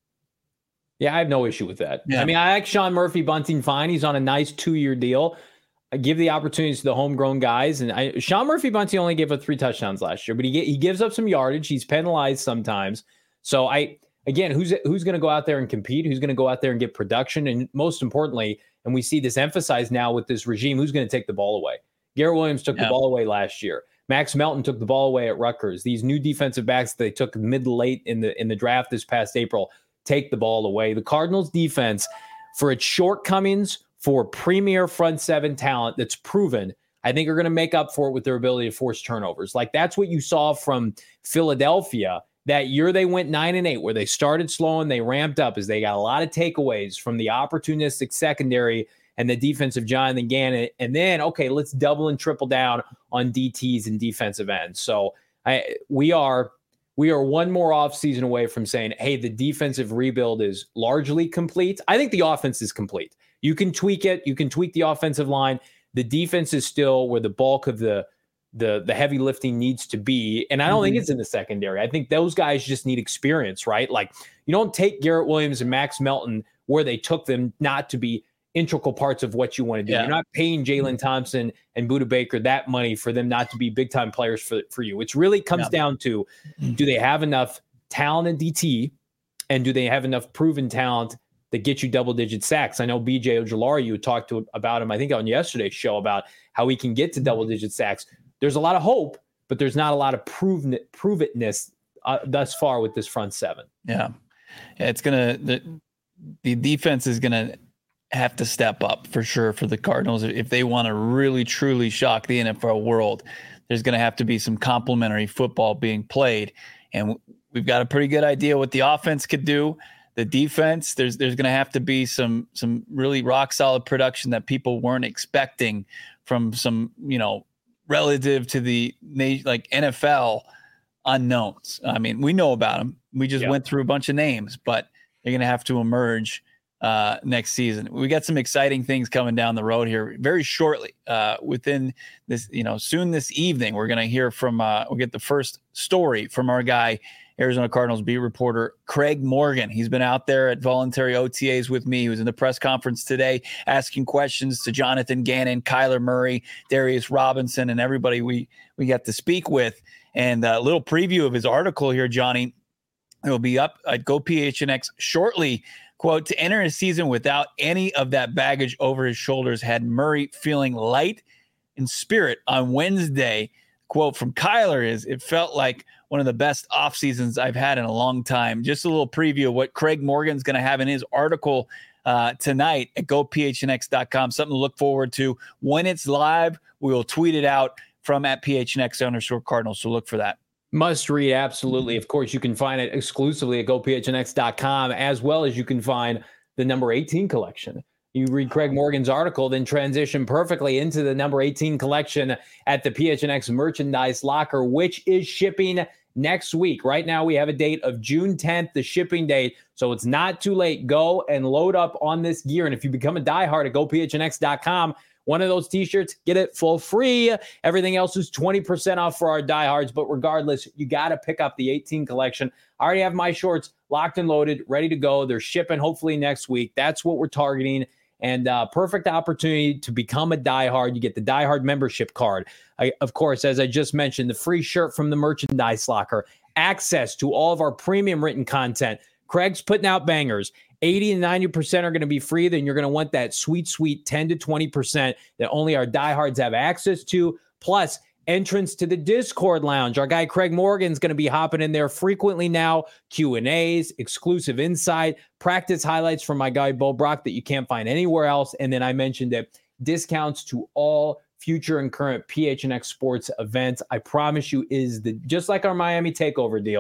Yeah, I have no issue with that. Yeah. I mean, I like Sean Murphy-Bunting fine. He's on a nice two-year deal. I give the opportunities to the homegrown guys. And I, Sean Murphy-Bunting only gave up three touchdowns last year, but he he gives up some yardage. He's penalized sometimes. So, I again, who's who's going to go out there and compete? Who's going to go out there and get production? And most importantly, and we see this emphasized now with this regime, who's going to take the ball away? Garrett Williams took yeah. the ball away last year. Max Melton took the ball away at Rutgers. These new defensive backs they took mid to late in the in the draft this past April take the ball away. The Cardinals defense, for its shortcomings, for premier front seven talent that's proven, I think are going to make up for it with their ability to force turnovers. Like that's what you saw from Philadelphia that year. They went nine and eight, where they started slow and they ramped up as they got a lot of takeaways from the opportunistic secondary and the defense of Jonathan Gannon. And then, okay, let's double and triple down on D Ts and defensive ends. So I, we are we are one more offseason away from saying, hey, the defensive rebuild is largely complete. I think the offense is complete. You can tweak it. You can tweak the offensive line. The defense is still where the bulk of the the the heavy lifting needs to be. And I don't mm-hmm. think it's in the secondary. I think those guys just need experience, right? Like you don't take Garrett Williams and Max Melton where they took them not to be integral parts of what you want to do. Yeah. You're not paying Jalen Thompson and Budda Baker that money for them not to be big time players for, for you. It really comes yeah. down to, do they have enough talent in D T and do they have enough proven talent that get you double digit sacks? I know B J Ojulari, you talked to about him, I think on yesterday's show, about how he can get to double digit sacks. There's a lot of hope, but there's not a lot of proven prove itness uh, thus far with this front seven. Yeah. yeah it's going to, the, the defense is going to have to step up for sure for the Cardinals. If they want to really, truly shock the N F L world, there's going to have to be some complementary football being played. And we've got a pretty good idea what the offense could do. The defense, there's there's going to have to be some some really rock solid production that people weren't expecting from some, you know, relative to the like N F L unknowns. I mean, we know about them. We just yeah. went through a bunch of names, but they're going to have to emerge uh, next season. We got some exciting things coming down the road here very shortly. Uh, within this, you know, soon this evening, we're going to hear from. Uh, we'll get the first story from our guy, Arizona Cardinals beat reporter Craig Morgan. He's been out there at voluntary O T As with me. He was in the press conference today asking questions to Jonathan Gannon, Kyler Murray, Darius Robinson, and everybody we, we got to speak with. And a little preview of his article here, Johnny. It will be up at Go P H N X shortly. Quote, to enter a season without any of that baggage over his shoulders had Murray feeling light in spirit on Wednesday. Quote from Kyler is, it felt like one of the best off seasons I've had in a long time. Just a little preview of what Craig Morgan's going to have in his article uh, tonight at go p h n x dot com. Something to look forward to. When it's live, we will tweet it out from at P H N X underscore Cardinals. So look for that. Must read, absolutely. Of course, you can find it exclusively at go p h n x dot com, as well as you can find the number eighteen collection. You read Craig Morgan's article, then transition perfectly into the number eighteen collection at the P H N X merchandise locker, which is shipping next week. Right now, we have a date of June tenth, the shipping date. So it's not too late. Go and load up on this gear. And if you become a diehard at go p h n x dot com, one of those t-shirts, get it for free. Everything else is twenty percent off for our diehards. But regardless, you got to pick up the eighteen collection. I already have my shorts locked and loaded, ready to go. They're shipping hopefully next week. That's what we're targeting. And uh, perfect opportunity to become a diehard. You get the diehard membership card. I, of course, as I just mentioned, the free shirt from the merchandise locker, access to all of our premium written content. Craig's putting out bangers. eighty and ninety percent are going to be free. Then you're going to want that sweet, sweet ten to twenty percent that only our diehards have access to. Plus, entrance to the Discord lounge. Our guy Craig Morgan's going to be hopping in there frequently now. Q and A's, exclusive insight, practice highlights from my guy Bo Brock that you can't find anywhere else. And then I mentioned that discounts to all future and current P H N X sports events. I promise you is the just like our Miami Takeover deal.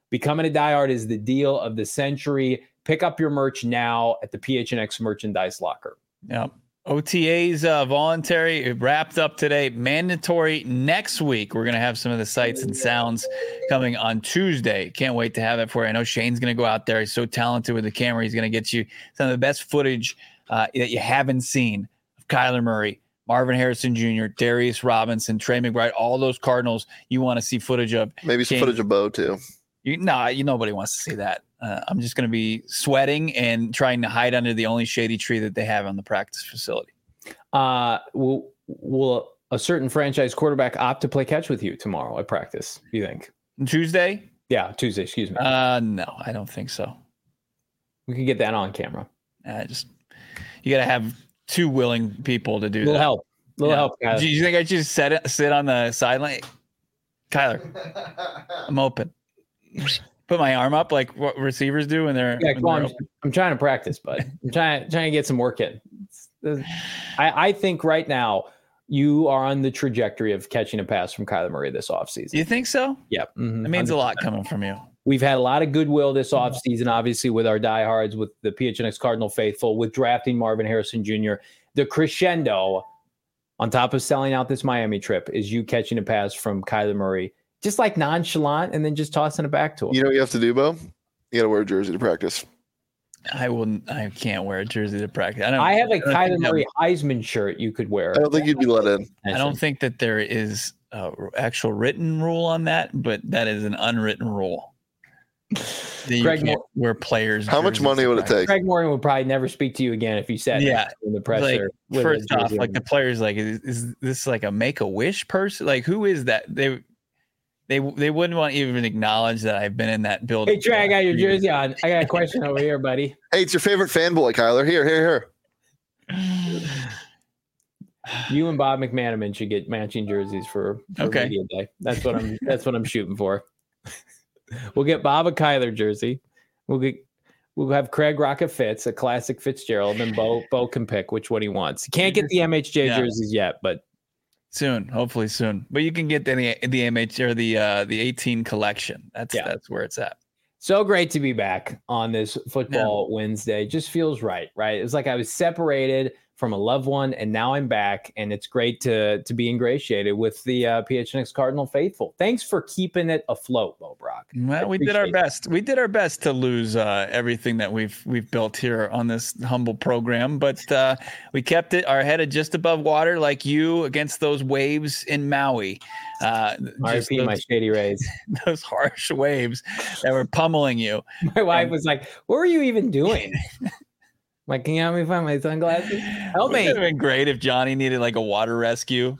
Becoming a diehard is the deal of the century. Pick up your merch now at the P H N X merchandise locker. Yep. O T As uh, voluntary, it wrapped up today. Mandatory next week. We're going to have some of the sights and sounds coming on Tuesday. Can't wait to have it for you. I know Shane's going to go out there. He's so talented with the camera. He's going to get you some of the best footage uh, that you haven't seen of Kyler Murray, Marvin Harrison Junior, Darius Robinson, Trey McBride, all those Cardinals you want to see footage of. Maybe some Shane, footage of Bo too. You, nah, you nobody wants to see that. Uh, I'm just going to be sweating and trying to hide under the only shady tree that they have on the practice facility. Uh, will will a certain franchise quarterback opt to play catch with you tomorrow at practice? Do you think Tuesday? Yeah, Tuesday. Excuse me. Uh, no, I don't think so. We can get that on camera. I just you got to have two willing people to do little that. help. Little yeah. help. Guys. Do you think I should just sit sit on the sideline? Kyler, I'm open. Put my arm up like what receivers do when they're. Yeah, when come they're on. I'm trying to practice, bud. I'm trying trying to get some work in. I, I think right now you are on the trajectory of catching a pass from Kyler Murray this offseason. You think so? Yeah. Mm-hmm, it means one hundred percent. A lot coming from you. We've had a lot of goodwill this offseason, obviously, with our diehards, with the P H N X Cardinal faithful, with drafting Marvin Harrison Junior The crescendo, on top of selling out this Miami trip, is you catching a pass from Kyler Murray, just like nonchalant, and then just tossing it back to him. You know what you have to do, Bo? You got to wear a jersey to practice. I wouldn't. I can't wear a jersey to practice. I don't. I have a I Kyler Murray Heisman shirt you could wear. I don't think you'd be let in. I don't think that there is a actual written rule on that, but that is an unwritten rule. That Greg Moore, where players. How much money would it take? Greg Morgan would probably never speak to you again if you said yeah in the presser. Like, first off, like the players, like is, is this like a Make a Wish person? Like who is that? They. They they wouldn't want to even acknowledge that I've been in that building. Hey, Trey, I got your jersey on. I got a question over here, buddy. Hey, it's your favorite fanboy, Kyler. Here, here, here. You and Bob McManaman should get matching jerseys for, for okay. media day. That's what I'm. That's what I'm shooting for. We'll get Bob a Kyler jersey. We'll get. We'll have Craig rock a Fitz, a classic Fitzgerald, and Bo Bo can pick which one he wants. He can't get the M H J yeah. jerseys yet, but. Soon, hopefully soon. But you can get the the M H or the uh, the eighteen collection. That's yeah. that's where it's at. So great to be back on this football yeah. Wednesday. Just feels right, right? It's like I was separated from a loved one, and now I'm back, and it's great to to be ingratiated with the uh, P H N X Cardinal faithful. Thanks for keeping it afloat, Bo Brock. Well, we did our best. It. We did our best to lose uh, everything that we've we've built here on this humble program, but uh, we kept it our head just above water, like you against those waves in Maui. Uh, I repeat my shady rays. Those harsh waves that were pummeling you. My wife and, was like, "What were you even doing?" Like, can you help me find my sunglasses? Help me. It would have been great if Johnny needed like a water rescue.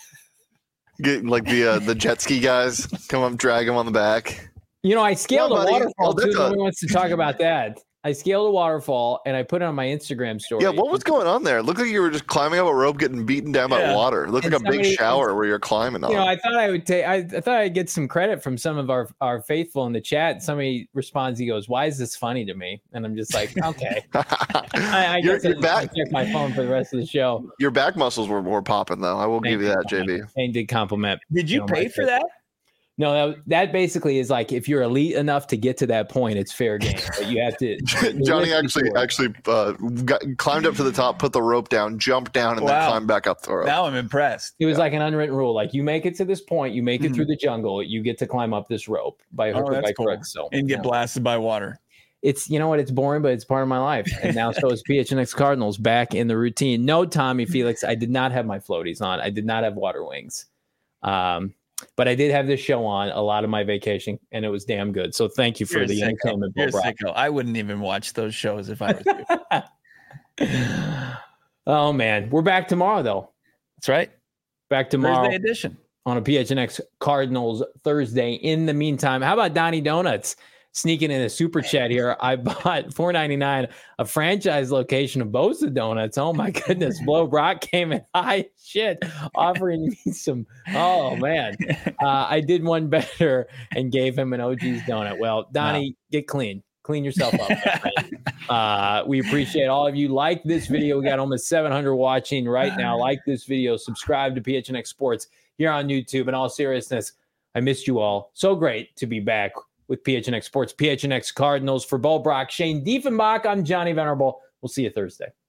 Get like the uh, the jet ski guys come up, drag him on the back. You know, I scaled no, a buddy. waterfall Oh, too. a... Nobody wants to talk about that. I scaled a waterfall and I put it on my Instagram story. Yeah, what was going on there? It looked like you were just climbing up a rope, getting beaten down by yeah. water. It looked and like somebody, a big shower where you're climbing on. You know, I thought I would take. I, I thought I'd get some credit from some of our our faithful in the chat. Somebody responds, he goes, "Why is this funny to me?" And I'm just like, okay. I, I guess I back, check my phone for the rest of the show. Your back muscles were more popping though. I will Thank give you that, J B. Shane did compliment. Did you, you know, pay for that? No, that, that basically is like if you're elite enough to get to that point, it's fair game. But you have to. Johnny actually actually uh, got, climbed up to the top, put the rope down, jumped down, and wow. then climbed back up the rope. Now I'm impressed. It was yeah. like an unwritten rule. Like you make it to this point, you make it mm-hmm. through the jungle, you get to climb up this rope by hook oh, or by cool. crook. So and get yeah. blasted by water. It's you know what? It's boring, but it's part of my life. And now so is P H N X Cardinals back in the routine. No, Tommy Felix, I did not have my floaties on. I did not have water wings. Um. But I did have this show on a lot of my vacation, and it was damn good. So thank you for You're the entertainment. You're sicko. I wouldn't even watch those shows if I was you. Oh, man. We're back tomorrow, though. That's right. Back tomorrow. Thursday edition. On a P H N X Cardinals Thursday. In the meantime, how about Donnie Donuts? Sneaking in a super chat here. I bought four ninety-nine a franchise location of Bosa Donuts. Oh my goodness. Blow Brock came in high shit, offering me some. Oh man. Uh, I did one better and gave him an O G's donut. Well, Donnie, wow. Get clean. Clean yourself up. uh, we appreciate all of you. Like this video. We got almost seven hundred watching right now. Like this video. Subscribe to P H N X Sports here on YouTube. In all seriousness, I missed you all. So great to be back with P H N X Sports, P H N X Cardinals. For Bo Brock, Shane Diefenbach, I'm Johnny Venerable. We'll see you Thursday.